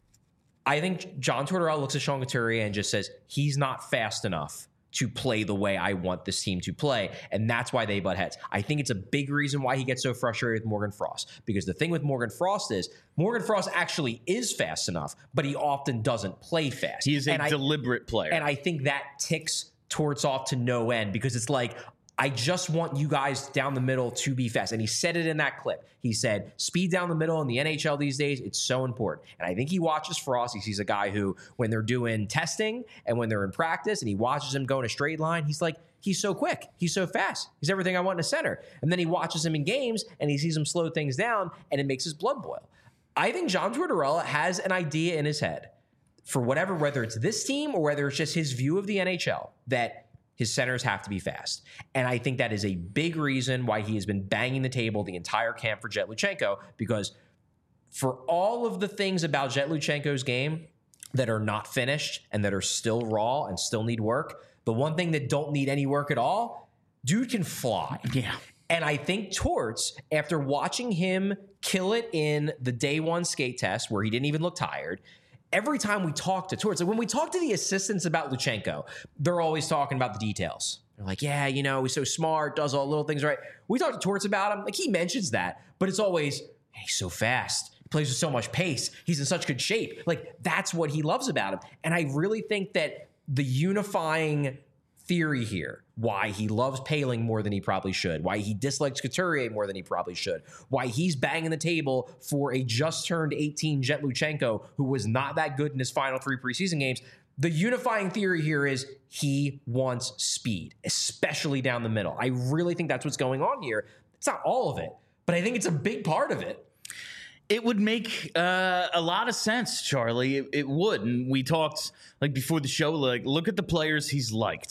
I think John Tortorella looks at Sean Couturier and just says, he's not fast enough to play the way I want this team to play. And that's why they butt heads. I think it's a big reason why he gets so frustrated with Morgan Frost. Because the thing with Morgan Frost is, Morgan Frost actually is fast enough, but he often doesn't play fast. He is a deliberate player. And I think that ticks Torts off to no end, because it's like, I just want you guys down the middle to be fast. And he said it in that clip. He said, speed down the middle in the NHL these days, it's so important. And I think he watches Frost. He sees a guy who, when they're doing testing and when they're in practice and he watches him go in a straight line, he's like, he's so quick. He's so fast. He's everything I want in a center. And then he watches him in games and he sees him slow things down and it makes his blood boil. I think John Tortorella has an idea in his head for whatever, whether it's this team or whether it's just his view of the NHL, that his centers have to be fast. And I think that is a big reason why he has been banging the table the entire camp for Jet Luchenko, because for all of the things about Jet Luchenko's game that are not finished and that are still raw and still need work, the one thing that don't need any work at all, dude can fly. Yeah. And I think Torts, after watching him kill it in the day one skate test where he didn't even look tired, every time we talk to Torts, like when we talk to the assistants about Luchenko, they're always talking about the details. They're like, yeah, you know, he's so smart, does all the little things right. We talk to Torts about him, like he mentions that, but it's always, hey, he's so fast. He plays with so much pace. He's in such good shape. Like, that's what he loves about him. And I really think that the unifying theory here, why he loves Poehling more than he probably should, why he dislikes Couturier more than he probably should, why he's banging the table for a just turned 18 Jet Luchenko who was not that good in his final 3 preseason games. The unifying theory here is he wants speed, especially down the middle. I really think that's what's going on here. It's not all of it, but I think it's a big part of it. It would make a lot of sense, Charlie. It would. And we talked, like, before the show, like, look at the players he's liked.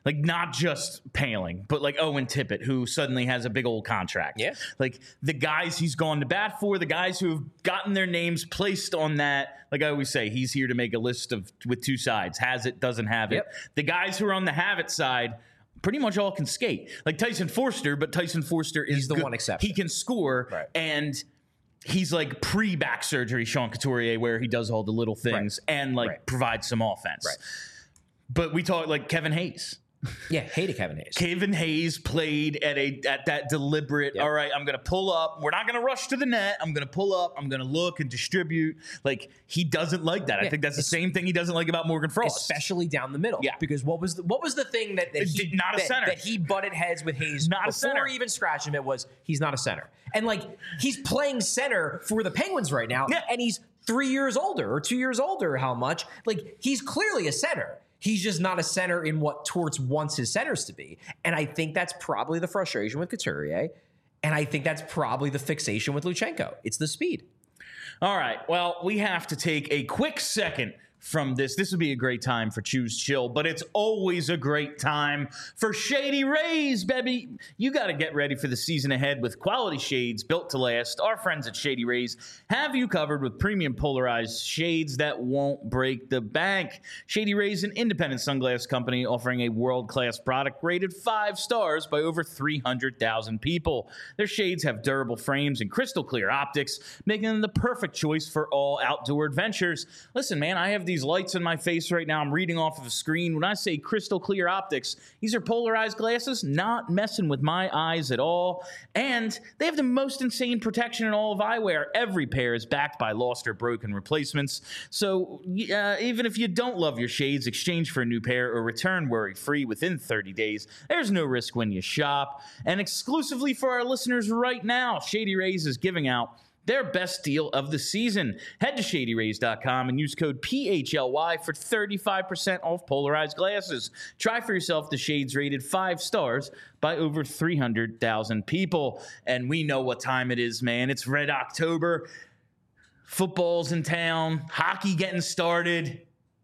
Like, not just Paling, but like Owen Tippett, who suddenly has a big old contract. Yeah. Like, the guys he's gone to bat for, the guys who have gotten their names placed on that. Like I always say, he's here to make a list with two sides. Has it, doesn't have it. Yep. The guys who are on the have it side pretty much all can skate. Like Tyson Forster, but Tyson Forster is He's the good. one exception. He can score, Right. and he's like pre-back surgery Sean Couturier, where he does all the little things and like provides some offense. Right. But we talk like Kevin Hayes. Yeah, hated Kevin Hayes. Kevin Hayes played at that deliberate, all right, I'm going to pull up. We're not going to rush to the net. I'm going to pull up. I'm going to look and distribute. Like, he doesn't like that. I think that's the same thing he doesn't like about Morgan Frost. Especially down the middle. Yeah. Because what was the thing that he Not a center. that he butted heads with Hayes Not a before center. even scratching him? It was he's not a center. And like he's playing center for the Penguins right now, and he's 3 years older or 2 years older. How much? Like, he's clearly a center. He's just not a center in what Torts wants his centers to be. And I think that's probably the frustration with Couturier. And I think that's probably the fixation with Luchenko. It's the speed. All right. Well, we have to take a quick second from this. This would be a great time for Choose Chill, but it's always a great time for Shady Rays, baby. You got to get ready for the season ahead with quality shades built to last. Our friends at Shady Rays have you covered with premium polarized shades that won't break the bank. Shady Rays, an independent sunglass company offering a world-class product rated 5 stars by over 300,000 people. Their shades have durable frames and crystal clear optics, making them the perfect choice for all outdoor adventures. Listen, man, I have these lights in my face right now. I'm reading off of a screen. When I say crystal clear optics, these are polarized glasses, not messing with my eyes at all. And they have the most insane protection in all of eyewear. Every pair is backed by lost or broken replacements. So even if you don't love your shades, exchange for a new pair or return worry-free within 30 days. There's no risk when you shop. And exclusively for our listeners right now, Shady Rays is giving out their best deal of the season. Head to ShadyRays.com and use code PHLY for 35% off polarized glasses. Try for yourself the shades rated 5 stars by over 300,000 people. And we know what time it is, man. It's Red October. Football's in town. Hockey getting started.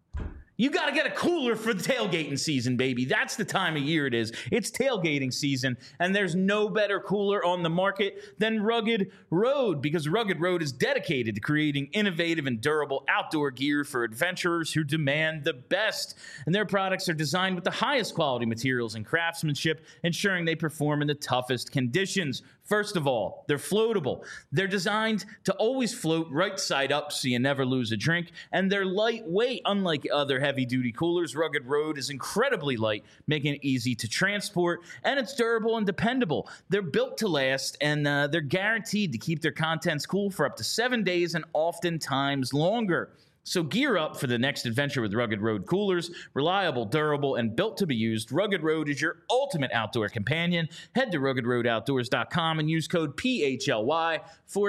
You got to get a cooler for the tailgating season, baby. That's the time of year it is. It's tailgating season, and there's no better cooler on the market than Rugged Road, because Rugged Road is dedicated to creating innovative and durable outdoor gear for adventurers who demand the best. And their products are designed with the highest quality materials and craftsmanship, ensuring they perform in the toughest conditions. First of all, they're floatable. They're designed to always float right side up so you never lose a drink, and they're lightweight. Unlike other heavy-duty coolers, Rugged Road is incredibly light, making it easy to transport, and it's durable and dependable. They're built to last, and they're guaranteed to keep their contents cool for up to 7 days and oftentimes longer. So gear up for the next adventure with Rugged Road coolers. Reliable, durable, and built to be used, Rugged Road is your ultimate outdoor companion. Head to RuggedRoadOutdoors.com and use code PHLY for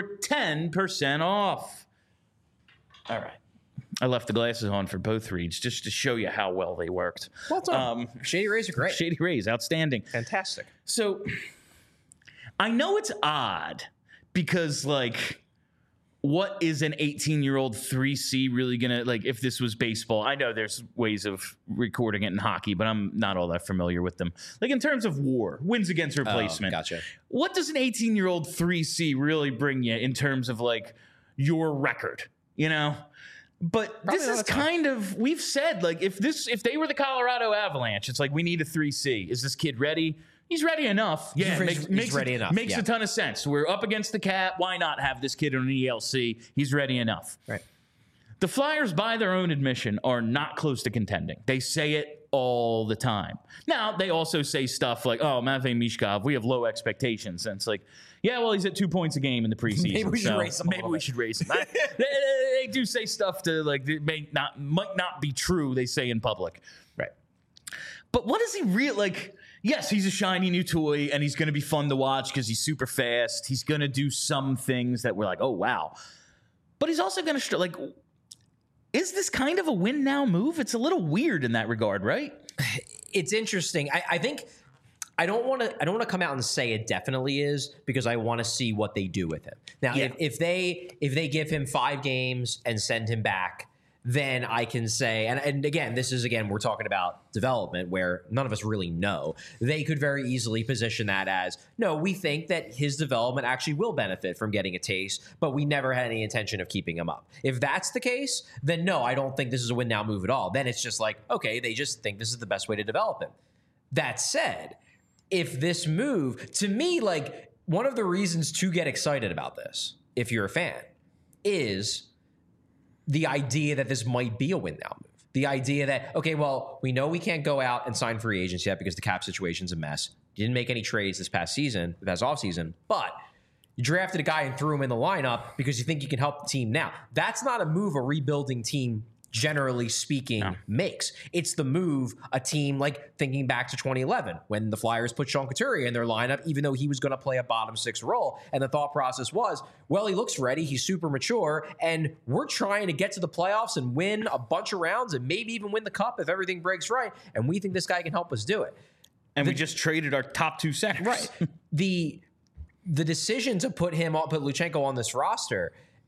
10% off. All right. I left the glasses on for both reads just to show you how well they worked. Well done. Shady Rays are great. Shady Rays, outstanding. Fantastic. So I know it's odd because, like, what is an 18-year-old 3C really going to, like, if this was baseball? I know there's ways of recording it in hockey, but I'm not all that familiar with them. Like, in terms of WAR, wins against replacement. Gotcha. What does an 18-year-old 3C really bring you in terms of, like, your record, you know? But Probably this is kind of, we've said, like, if they were the Colorado Avalanche, it's like, we need a 3C. Is this kid ready? He's ready enough. Yeah, he's ready enough. Makes a ton of sense. We're up against the cap. Why not have this kid on an ELC? He's ready enough. Right. The Flyers, by their own admission, are not close to contending. They say it all the time. Now, they also say stuff like, oh, Matvei Mishkov, we have low expectations. And it's like, yeah, well, he's at 2 points a game in the preseason. Maybe we should raise him. Maybe we should raise him. They do say stuff to, like, that might not be true, they say in public. Right. But what is he real like? Yes, he's a shiny new toy, and he's going to be fun to watch because he's super fast. He's going to do some things that we're like, oh, wow. But he's also going to, like, is this kind of a win now move? It's a little weird in that regard, right? It's interesting. I think I don't want to come out and say it definitely is, because I want to see what they do with him. Now, if they give him 5 games and send him back, then I can say, and again, we're talking about development where none of us really know. They could very easily position that as, no, we think that his development actually will benefit from getting a taste, but we never had any intention of keeping him up. If that's the case, then no, I don't think this is a win now move at all. Then it's just like, okay, they just think this is the best way to develop him. That said, if this move, to me, like one of the reasons to get excited about this, if you're a fan, is the idea that this might be a win now move. The idea that, okay, well, we know we can't go out and sign free agents yet because the cap situation's a mess. You didn't make any trades this past offseason, but you drafted a guy and threw him in the lineup because you think you can help the team now. That's not a move a rebuilding team, generally speaking, makes. It's the move a team, like thinking back to 2011 when the Flyers put Sean Couturier in their lineup, even though he was going to play a bottom six role. And the thought process was, well, he looks ready. He's super mature. And we're trying to get to the playoffs and win a bunch of rounds and maybe even win the cup if everything breaks right. And we think this guy can help us do it. And we just traded our top 2 centers. Right. The decision to put Luchenko on this roster,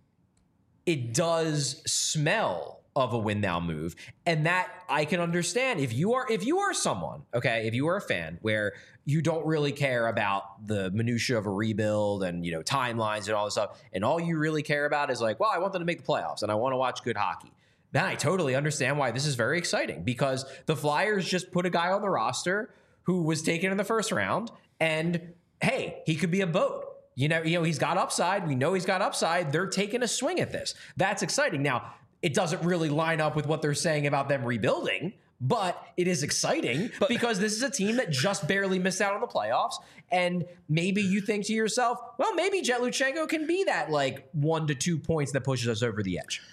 it does smell of a win now move. And that I can understand if you are someone, okay, if you are a fan where you don't really care about the minutia of a rebuild and, timelines and all this stuff, and all you really care about is like, well, I want them to make the playoffs and I want to watch good hockey. Then I totally understand why this is very exciting, because the Flyers just put a guy on the roster who was taken in the first round, and hey, he could be a boat. He's got upside. We know he's got upside. They're taking a swing at this. That's exciting. Now, it doesn't really line up with what they're saying about them rebuilding, but it is exciting because this is a team that just barely missed out on the playoffs. And maybe you think to yourself, well, maybe Jet Luchenko can be that like 1 to 2 points that pushes us over the edge.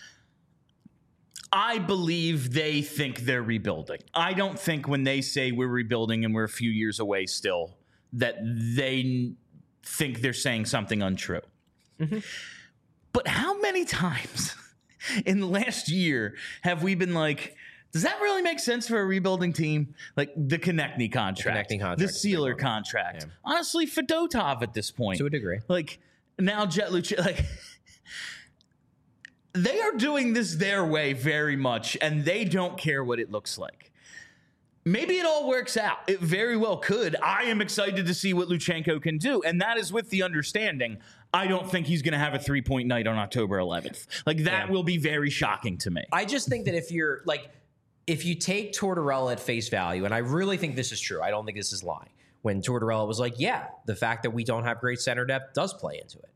I believe they think they're rebuilding. I don't think when they say we're rebuilding and we're a few years away still, that they think they're saying something untrue. Mm-hmm. But how many times in the last year have we been like, does that really make sense for a rebuilding team? Like the Konechny contract, the Sealer contract. Yeah. Honestly, Fedotov at this point. To a degree. Like now Jet Luchenko, like they are doing this their way very much, and they don't care what it looks like. Maybe it all works out. It very well could. I am excited to see what Luchenko can do, and that is with the understanding I don't think he's going to have a 3-point night on October 11th. Like, that will be very shocking to me. I just think that if you take Tortorella at face value, and I really think this is true, I don't think this is lying, when Tortorella was like, yeah, the fact that we don't have great center depth does play into it.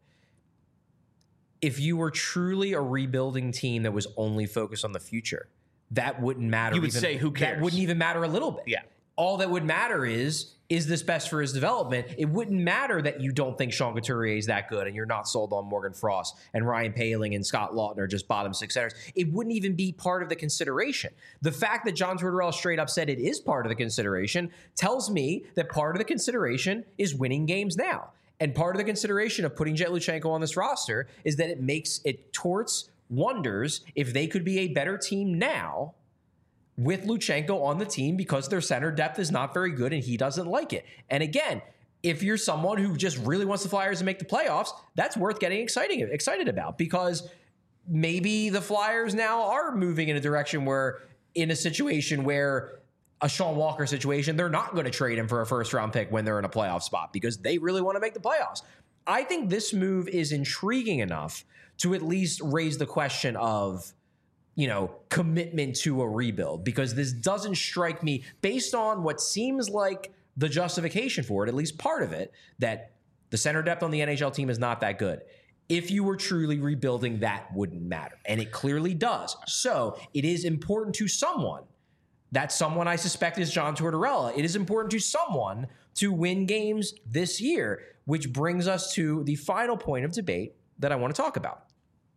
If you were truly a rebuilding team that was only focused on the future, that wouldn't matter. You would say, who cares? That wouldn't even matter a little bit. Yeah. All that would matter is this best for his development? It wouldn't matter that you don't think Sean Couturier is that good and you're not sold on Morgan Frost and Ryan Poehling and Scott Lawton are just bottom six centers. It wouldn't even be part of the consideration. The fact that John Tortorella straight up said it is part of the consideration tells me that part of the consideration is winning games now. And part of the consideration of putting Jet Luchenko on this roster is that it torts wonders if they could be a better team now with Luchenko on the team because their center depth is not very good and he doesn't like it. And if you're someone who just really wants the Flyers to make the playoffs, that's worth getting excited about, because maybe the Flyers now are moving in a direction where, in a situation where a Sean Walker situation, they're not going to trade him for a first-round pick when they're in a playoff spot because they really want to make the playoffs. I think this move is intriguing enough to at least raise the question of, commitment to a rebuild, because this doesn't strike me, based on what seems like the justification for it, at least part of it, that the center depth on the NHL team is not that good. If you were truly rebuilding, that wouldn't matter. And it clearly does. So it is important to someone. That someone, I suspect, is John Tortorella. It is important to someone to win games this year, which brings us to the final point of debate that I want to talk about.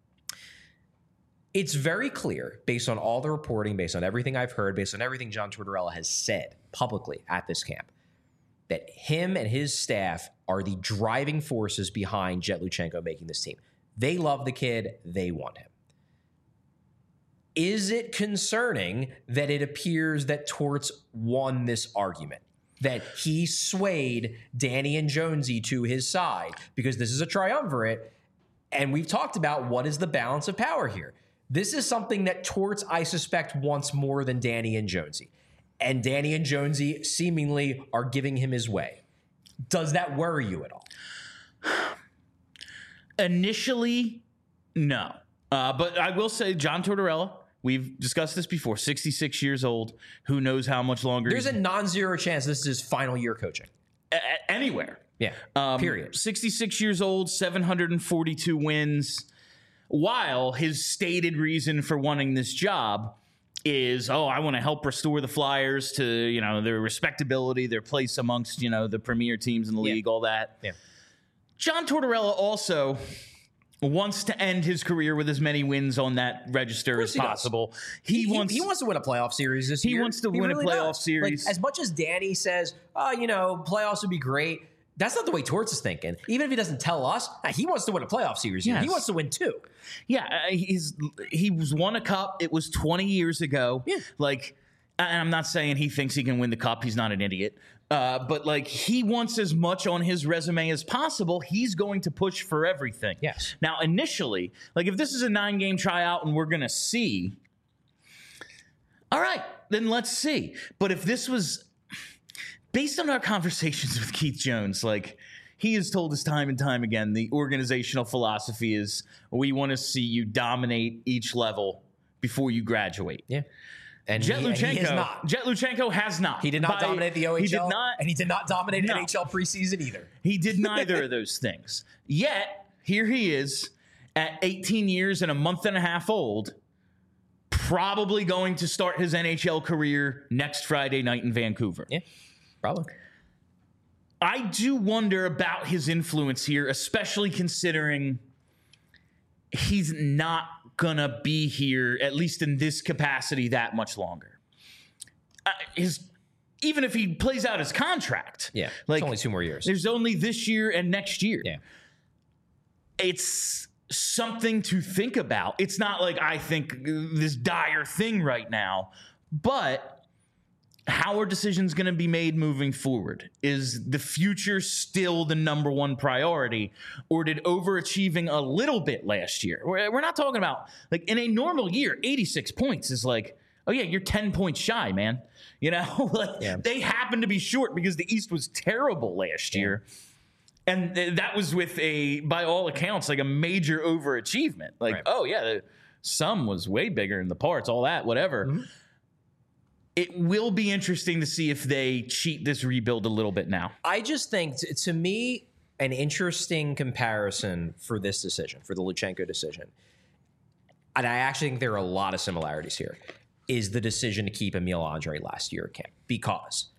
It's very clear, based on all the reporting, based on everything I've heard, based on everything John Tortorella has said publicly at this camp, that him and his staff are the driving forces behind Jet Luchenko making this team. They love the kid. They want him. Is it concerning that it appears that Torts won this argument, that he swayed Danny and Jonesy to his side? Because this is a triumvirate, and we've talked about what is the balance of power here. This is something that Torts, I suspect, wants more than Danny and Jonesy. And Danny and Jonesy seemingly are giving him his way. Does that worry you at all? Initially, no. But I will say John Tortorella, we've discussed this before, 66 years old. Who knows how much longer? There's a non-zero chance this is his final year coaching. Anywhere. Yeah, period. 66 years old, 742 wins. While his stated reason for wanting this job is, I want to help restore the Flyers to, their respectability, their place amongst, the premier teams in the league, all that. Yeah. John Tortorella also wants to end his career with as many wins on that register as possible. He wants to win a playoff series this year. He wants to win a playoff series. Like, as much as Danny says, playoffs would be great, that's not the way Torts is thinking. Even if he doesn't tell us, he wants to win a playoff series. Yes. He wants to win 2. Yeah, he was won a cup. It was 20 years ago. Yeah. And I'm not saying he thinks he can win the cup. He's not an idiot. But he wants as much on his resume as possible. He's going to push for everything. Yes. Now, initially, if this is a 9-game tryout and we're going to see, all right, then let's see. But if this was based on our conversations with Keith Jones, he has told us time and time again, the organizational philosophy is we want to see you dominate each level before you graduate. Yeah. And Jet Luchenko has not. He did not dominate the OHL. He did not. And he did not dominate NHL preseason either. He did neither of those things. Yet, here he is at 18 years and a month and a half old, probably going to start his NHL career next Friday night in Vancouver. Yeah. Probably. I do wonder about his influence here, especially considering he's not going to be here, at least in this capacity, that much longer. Even if he plays out his contract. Yeah, it's only 2 more years. There's only this year and next year. Yeah. It's something to think about. It's not I think this dire thing right now, but how are decisions going to be made moving forward? Is the future still the number one priority, or did overachieving a little bit last year? We're not talking about in a normal year, 86 points is oh yeah, you're 10 points shy, man. They happen to be short because the East was terrible last year. And that was with by all accounts, a major overachievement. Right. Oh yeah, the sum was way bigger than the parts, all that, whatever. Mm-hmm. It will be interesting to see if they cheat this rebuild a little bit now. I just think, to me, an interesting comparison for this decision, for the Luchenko decision, and I actually think there are a lot of similarities here, is the decision to keep Emil Andre last year at camp. Because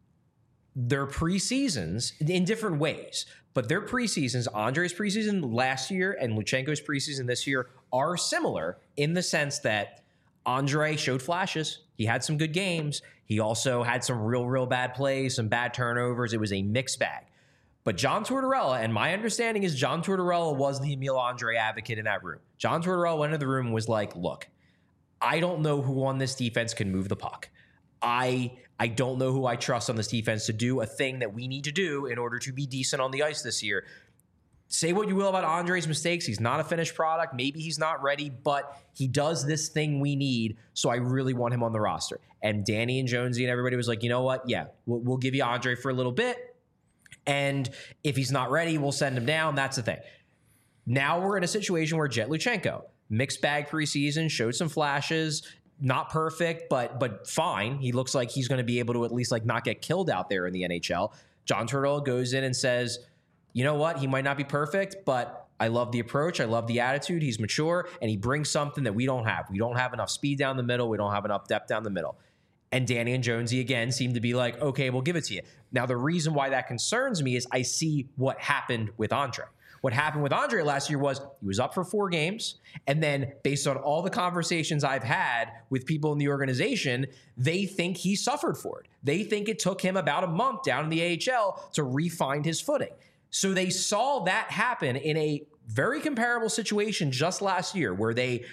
their preseasons, in different ways, but their preseasons, Andre's preseason last year and Luchenko's preseason this year, are similar in the sense that Andre showed flashes. He had some good games. He also had some real bad plays, some bad turnovers. It was a mixed bag. But John Tortorella, and my understanding is John Tortorella was the Emil Andre advocate in that room. John Tortorella went into the room and was like, look, I don't know who on this defense can move the puck. I don't know who I trust on this defense to do a thing that we need to do in order to be decent on the ice this year. Say what you will about Andre's mistakes. He's not a finished product. Maybe he's not ready, but he does this thing we need, so I really want him on the roster. And Danny and Jonesy and everybody was like, you know what? Yeah, we'll give you Andre for a little bit, and if he's not ready, we'll send him down. That's the thing. Now we're in a situation where Jet Luchenko, mixed bag preseason, showed some flashes, not perfect, but fine. He looks like he's going to be able to at least not get killed out there in the NHL. John Tortorella goes in and says, you know what? He might not be perfect, but I love the approach. I love the attitude. He's mature, and he brings something that we don't have. We don't have enough speed down the middle. We don't have enough depth down the middle. And Danny and Jonesy, again, seem to be like, okay, we'll give it to you. Now, the reason why that concerns me is I see what happened with Andre. What happened with Andre last year was he was up for 4 games, and then based on all the conversations I've had with people in the organization, they think he suffered for it. They think it took him about a month down in the AHL to re-find his footing. So they saw that happen in a very comparable situation just last year where they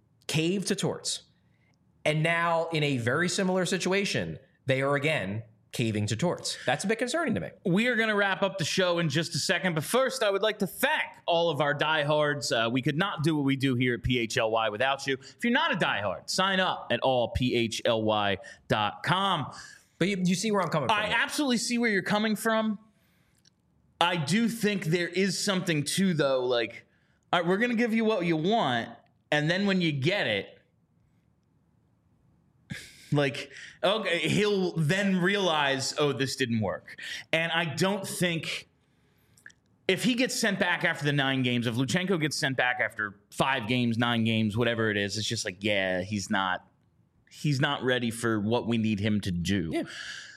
caved to Torts. And now in a very similar situation, they are again caving to Torts. That's a bit concerning to me. We are going to wrap up the show in just a second, but first I would like to thank all of our diehards. We could not do what we do here at PHLY without you. If you're not a diehard, sign up at allphly.com. But you see where I'm coming from. I absolutely see where you're coming from. I do think there is something too, though, like, all right, we're going to give you what you want, and then when you get it, like, okay, he'll then realize, oh, this didn't work. And I don't think if he gets sent back after the 9 games, if Luchenko gets sent back after 5 games, 9 games, whatever it is, it's just like, yeah, he's not ready for what we need him to do. Yeah.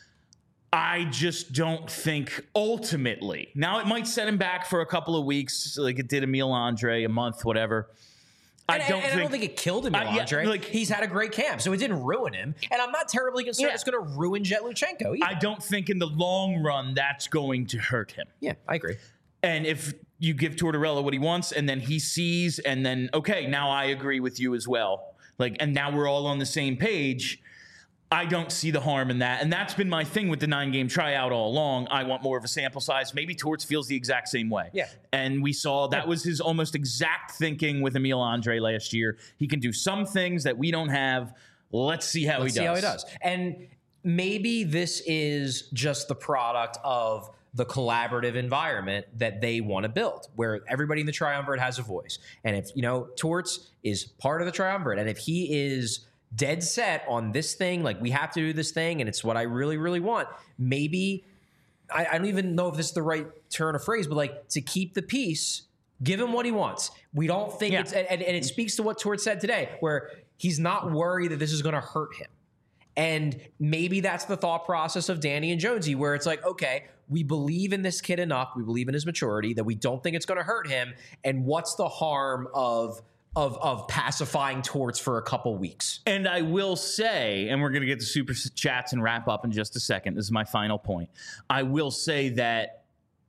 I just don't think ultimately. Now, it might set him back for a couple of weeks, like it did Emil Andre, a month, whatever. I don't think it killed him, Andre. Like, he's had a great camp, so it didn't ruin him. And I'm not terribly concerned it's going to ruin Jet Luchenko either. I don't think in the long run that's going to hurt him. Yeah, I agree. And if you give Tortorella what he wants, and then he sees, and then, okay, now I agree with you as well. Like, and now we're all on the same page. I don't see the harm in that. And that's been my thing with the 9-game tryout all along. I want more of a sample size. Maybe Torts feels the exact same way. Yeah. And we saw that was his almost exact thinking with Emil Andre last year. He can do some things that we don't have. Let's see how he does. And maybe this is just the product of the collaborative environment that they want to build, where everybody in the triumvirate has a voice. And if, Torts is part of the triumvirate, and if he is dead set on this thing, like we have to do this thing, and it's what I really, really want, maybe, I don't even know if this is the right turn of phrase, but like to keep the peace, give him what he wants. We don't think it's, and it speaks to what Torts said today, where he's not worried that this is going to hurt him. And maybe that's the thought process of Danny and Jonesy, where it's like, okay, we believe in this kid enough, we believe in his maturity, that we don't think it's going to hurt him. And what's the harm of pacifying Torts for a couple weeks? And I will say, and we're going to get to super chats and wrap up in just a second. This is my final point. I will say that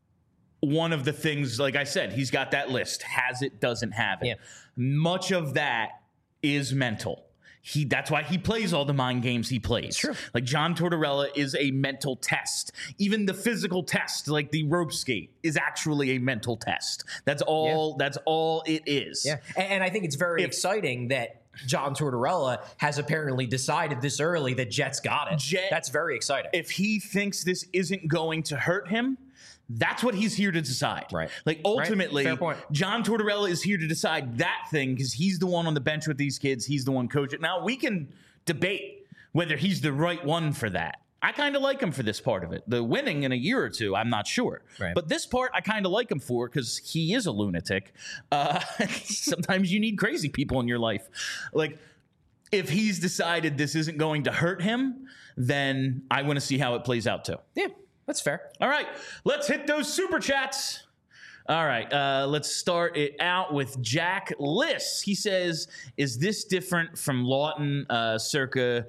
one of the things, like I said, he's got that list. Has it, doesn't have it. Yeah. Much of that is mental. That's why he plays all the mind games he plays. True. Like John Tortorella is a mental test. Even the physical test, like the rope skate, is actually a mental test. That's all. Yeah. That's all it is. Yeah, and I think it's very exciting that John Tortorella has apparently decided this early that Jet's got it. That's very exciting. If he thinks this isn't going to hurt him, that's what he's here to decide. Right. Like, ultimately, Fair point. John Tortorella is here to decide that thing because he's the one on the bench with these kids. He's the one coaching. Now, we can debate whether he's the right one for that. I kind of like him for this part of it. The winning in a year or two, I'm not sure. Right. But this part, I kind of like him for because he is a lunatic. Sometimes you need crazy people in your life. Like, if he's decided this isn't going to hurt him, then I want to see how it plays out too. Yeah. That's fair. All right, let's hit those super chats. All right, let's start it out with Jack Liss. He says, is this different from Lawton circa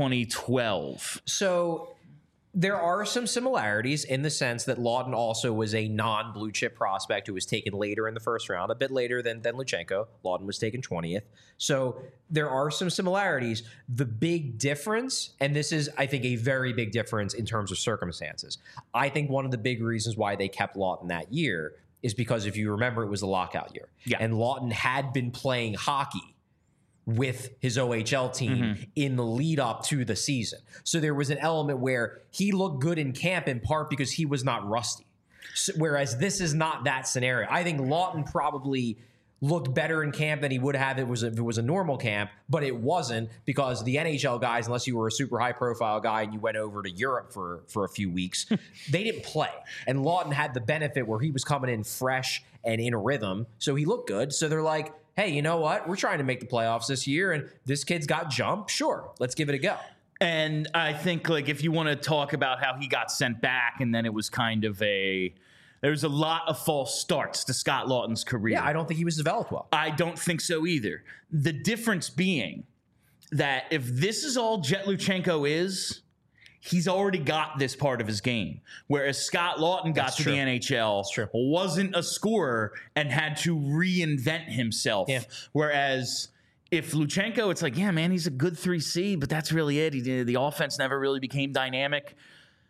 2012? So there are some similarities in the sense that Lawton also was a non-blue chip prospect who was taken later in the first round, a bit later than Luchenko. Lawton was taken 20th. So there are some similarities. The big difference, and this is, I think, a very big difference in terms of circumstances. I think one of the big reasons why they kept Lawton that year is because, if you remember, it was the lockout year. Yeah. And Lawton had been playing hockey with his OHL team in the lead up to the season. So there was an element where he looked good in camp, in part because he was not rusty. So, whereas this is not that scenario. I think Lawton probably looked better in camp than he would have if it was a normal camp, but it wasn't, because the NHL guys, unless you were a super high profile guy and you went over to Europe for a few weeks, they didn't play. And Lawton had the benefit where he was coming in fresh and in a rhythm, so he looked good. So they're like, hey, you know what? We're trying to make the playoffs this year, and this kid's got jump. Sure, let's give it a go. And I think, like, if you want to talk about how he got sent back, and then it was kind of there's a lot of false starts to Scott Lawton's career. Yeah, I don't think he was developed well. I don't think so either. The difference being that if this is all Jet Luchenko is, he's already got this part of his game. Whereas Scott Lawton got to the NHL, wasn't a scorer, and had to reinvent himself. Yeah. Whereas if Luchenko, it's like, yeah, man, he's a good 3C, but that's really it. The offense never really became dynamic.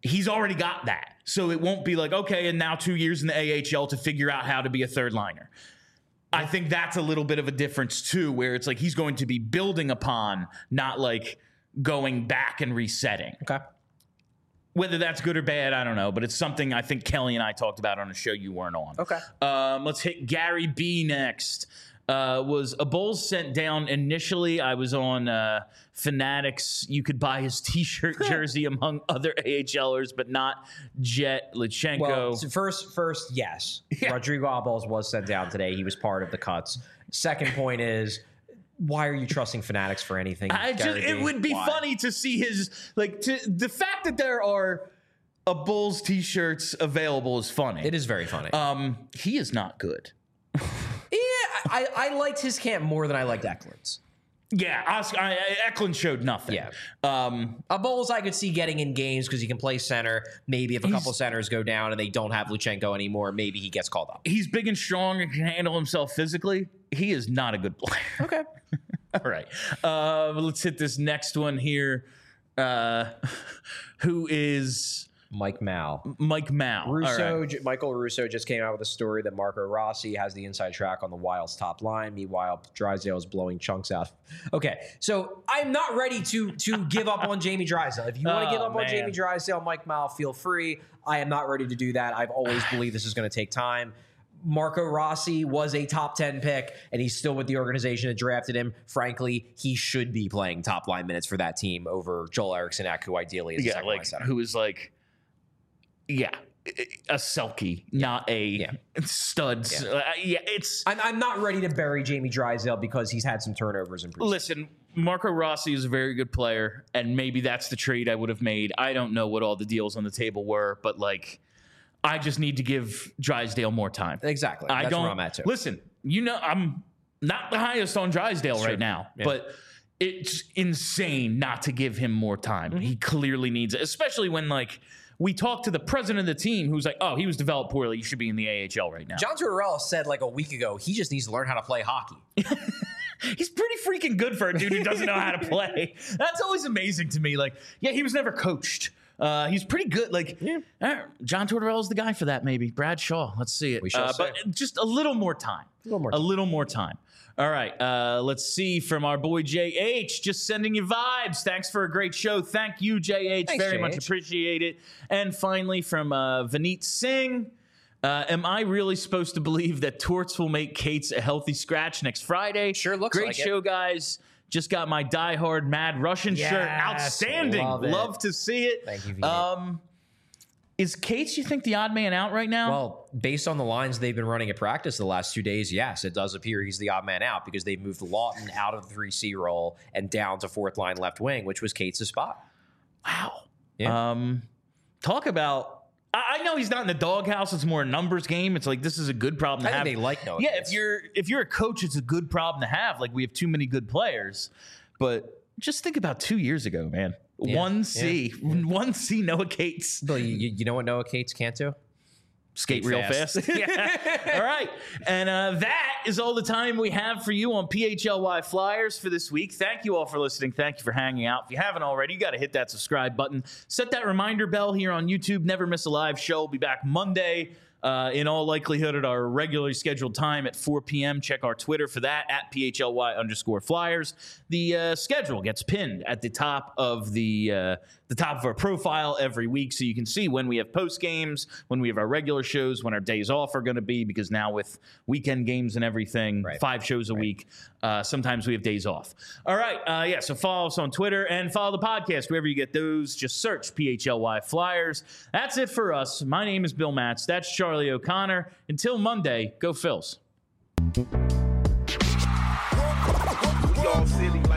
he's already got that. So it won't be like, okay, and now 2 years in the AHL to figure out how to be a third liner. I think that's a little bit of a difference too, where it's like he's going to be building upon, not like going back and resetting. Okay. Whether that's good or bad, I don't know, but it's something I think Kelly and I talked about on a show you weren't on. Okay. Let's hit Gary B next. Was a Bulls sent down initially? I was on Fanatics. You could buy his T-shirt jersey among other AHLers, but not Jet Lichenko. Well, so first, yes. Yeah. Rodrigo Alballs was sent down today. He was part of the cuts. Second point is, why are you trusting Fanatics for anything? It would be funny to see his the fact that there are a Bulls T-shirts available is funny. It is very funny. He is not good. Yeah, I liked his camp more than I liked Eklund's. Yeah, Eklund showed nothing. Yeah. A Bulls I could see getting in games because he can play center. Maybe if a couple centers go down and they don't have Luchenko anymore, maybe he gets called up. He's big and strong and can handle himself physically. He is not a good player. Okay. All right. Let's hit this next one here. Who is... Mike Mao. Michael Russo just came out with a story that Marco Rossi has the inside track on the Wild's top line. Meanwhile, Drysdale is blowing chunks out. Okay, so I'm not ready to give up on Jamie Drysdale. If you want to give up on Jamie Drysdale, Mike Mao, feel free. I am not ready to do that. I've always believed this is going to take time. Marco Rossi was a top 10 pick, and he's still with the organization that drafted him. Frankly, he should be playing top line minutes for that team over Joel Eriksson, who ideally is a second line center. Who is like... Yeah, a Selke, not a studs. It's. I'm not ready to bury Jamie Drysdale because he's had some turnovers in preseason. Listen, Marco Rossi is a very good player, and maybe that's the trade I would have made. I don't know what all the deals on the table were, but I just need to give Drysdale more time. Exactly. That's where I'm at too. Listen, I'm not the highest on Drysdale right now, but it's insane not to give him more time. Mm-hmm. He clearly needs it, especially when we talked to the president of the team who's like, oh, he was developed poorly. You should be in the AHL right now. John Tortorella said a week ago, he just needs to learn how to play hockey. He's pretty freaking good for a dude who doesn't know how to play. That's always amazing to me. He was never coached. He's pretty good. John Tortorella's the guy for that, maybe. Brad Shaw. Let's see it. We shall see. But just a little more time. A little more time. All right, let's see from our boy JH, just sending you vibes. Thanks for a great show. Thank you, JH. Thanks, very JH. much appreciate it. And finally from Vineet Singh, am I really supposed to believe that Torts will make Cates a healthy scratch next Friday? Sure looks great like show, guys. Just got my diehard Mad Russian shirt. Outstanding. Love to see it. Thank you, Vineet. Is Cates, you think, the odd man out right now? Well, based on the lines they've been running at practice the last 2 days, yes, it does appear he's the odd man out because they've moved Lawton out of the 3C role and down to fourth line left wing, which was Cates' spot. Wow. Yeah. Talk about... I know he's not in the doghouse. It's more a numbers game. It's this is a good problem to have. I think they like knowing. Yeah, if you're a coach, it's a good problem to have. We have too many good players. But just think about 2 years ago, man. Yeah. 1C Noah Cates. Bill, you know what Noah Cates can't do? Skate real fast. Yeah. All right. And that is all the time we have for you on PHLY Flyers for this week. Thank you all for listening. Thank you for hanging out. If you haven't already, you got to hit that subscribe button. Set that reminder bell here on YouTube. Never miss a live show. We'll be back Monday. In all likelihood at our regularly scheduled time at 4 p.m. Check our Twitter for that, at PHLY_Flyers. The schedule gets pinned at the top of the top of our profile every week, so you can see when we have post games, when we have our regular shows, when our days off are going to be, because now with weekend games and everything, 5 shows a week, sometimes we have days off. All right, so follow us on Twitter and follow the podcast wherever you get those. Just search PHLY Flyers. That's it for us. My name is Bill Matz. That's Charlie O'Connor. Until Monday, go Phils. Y'all silly.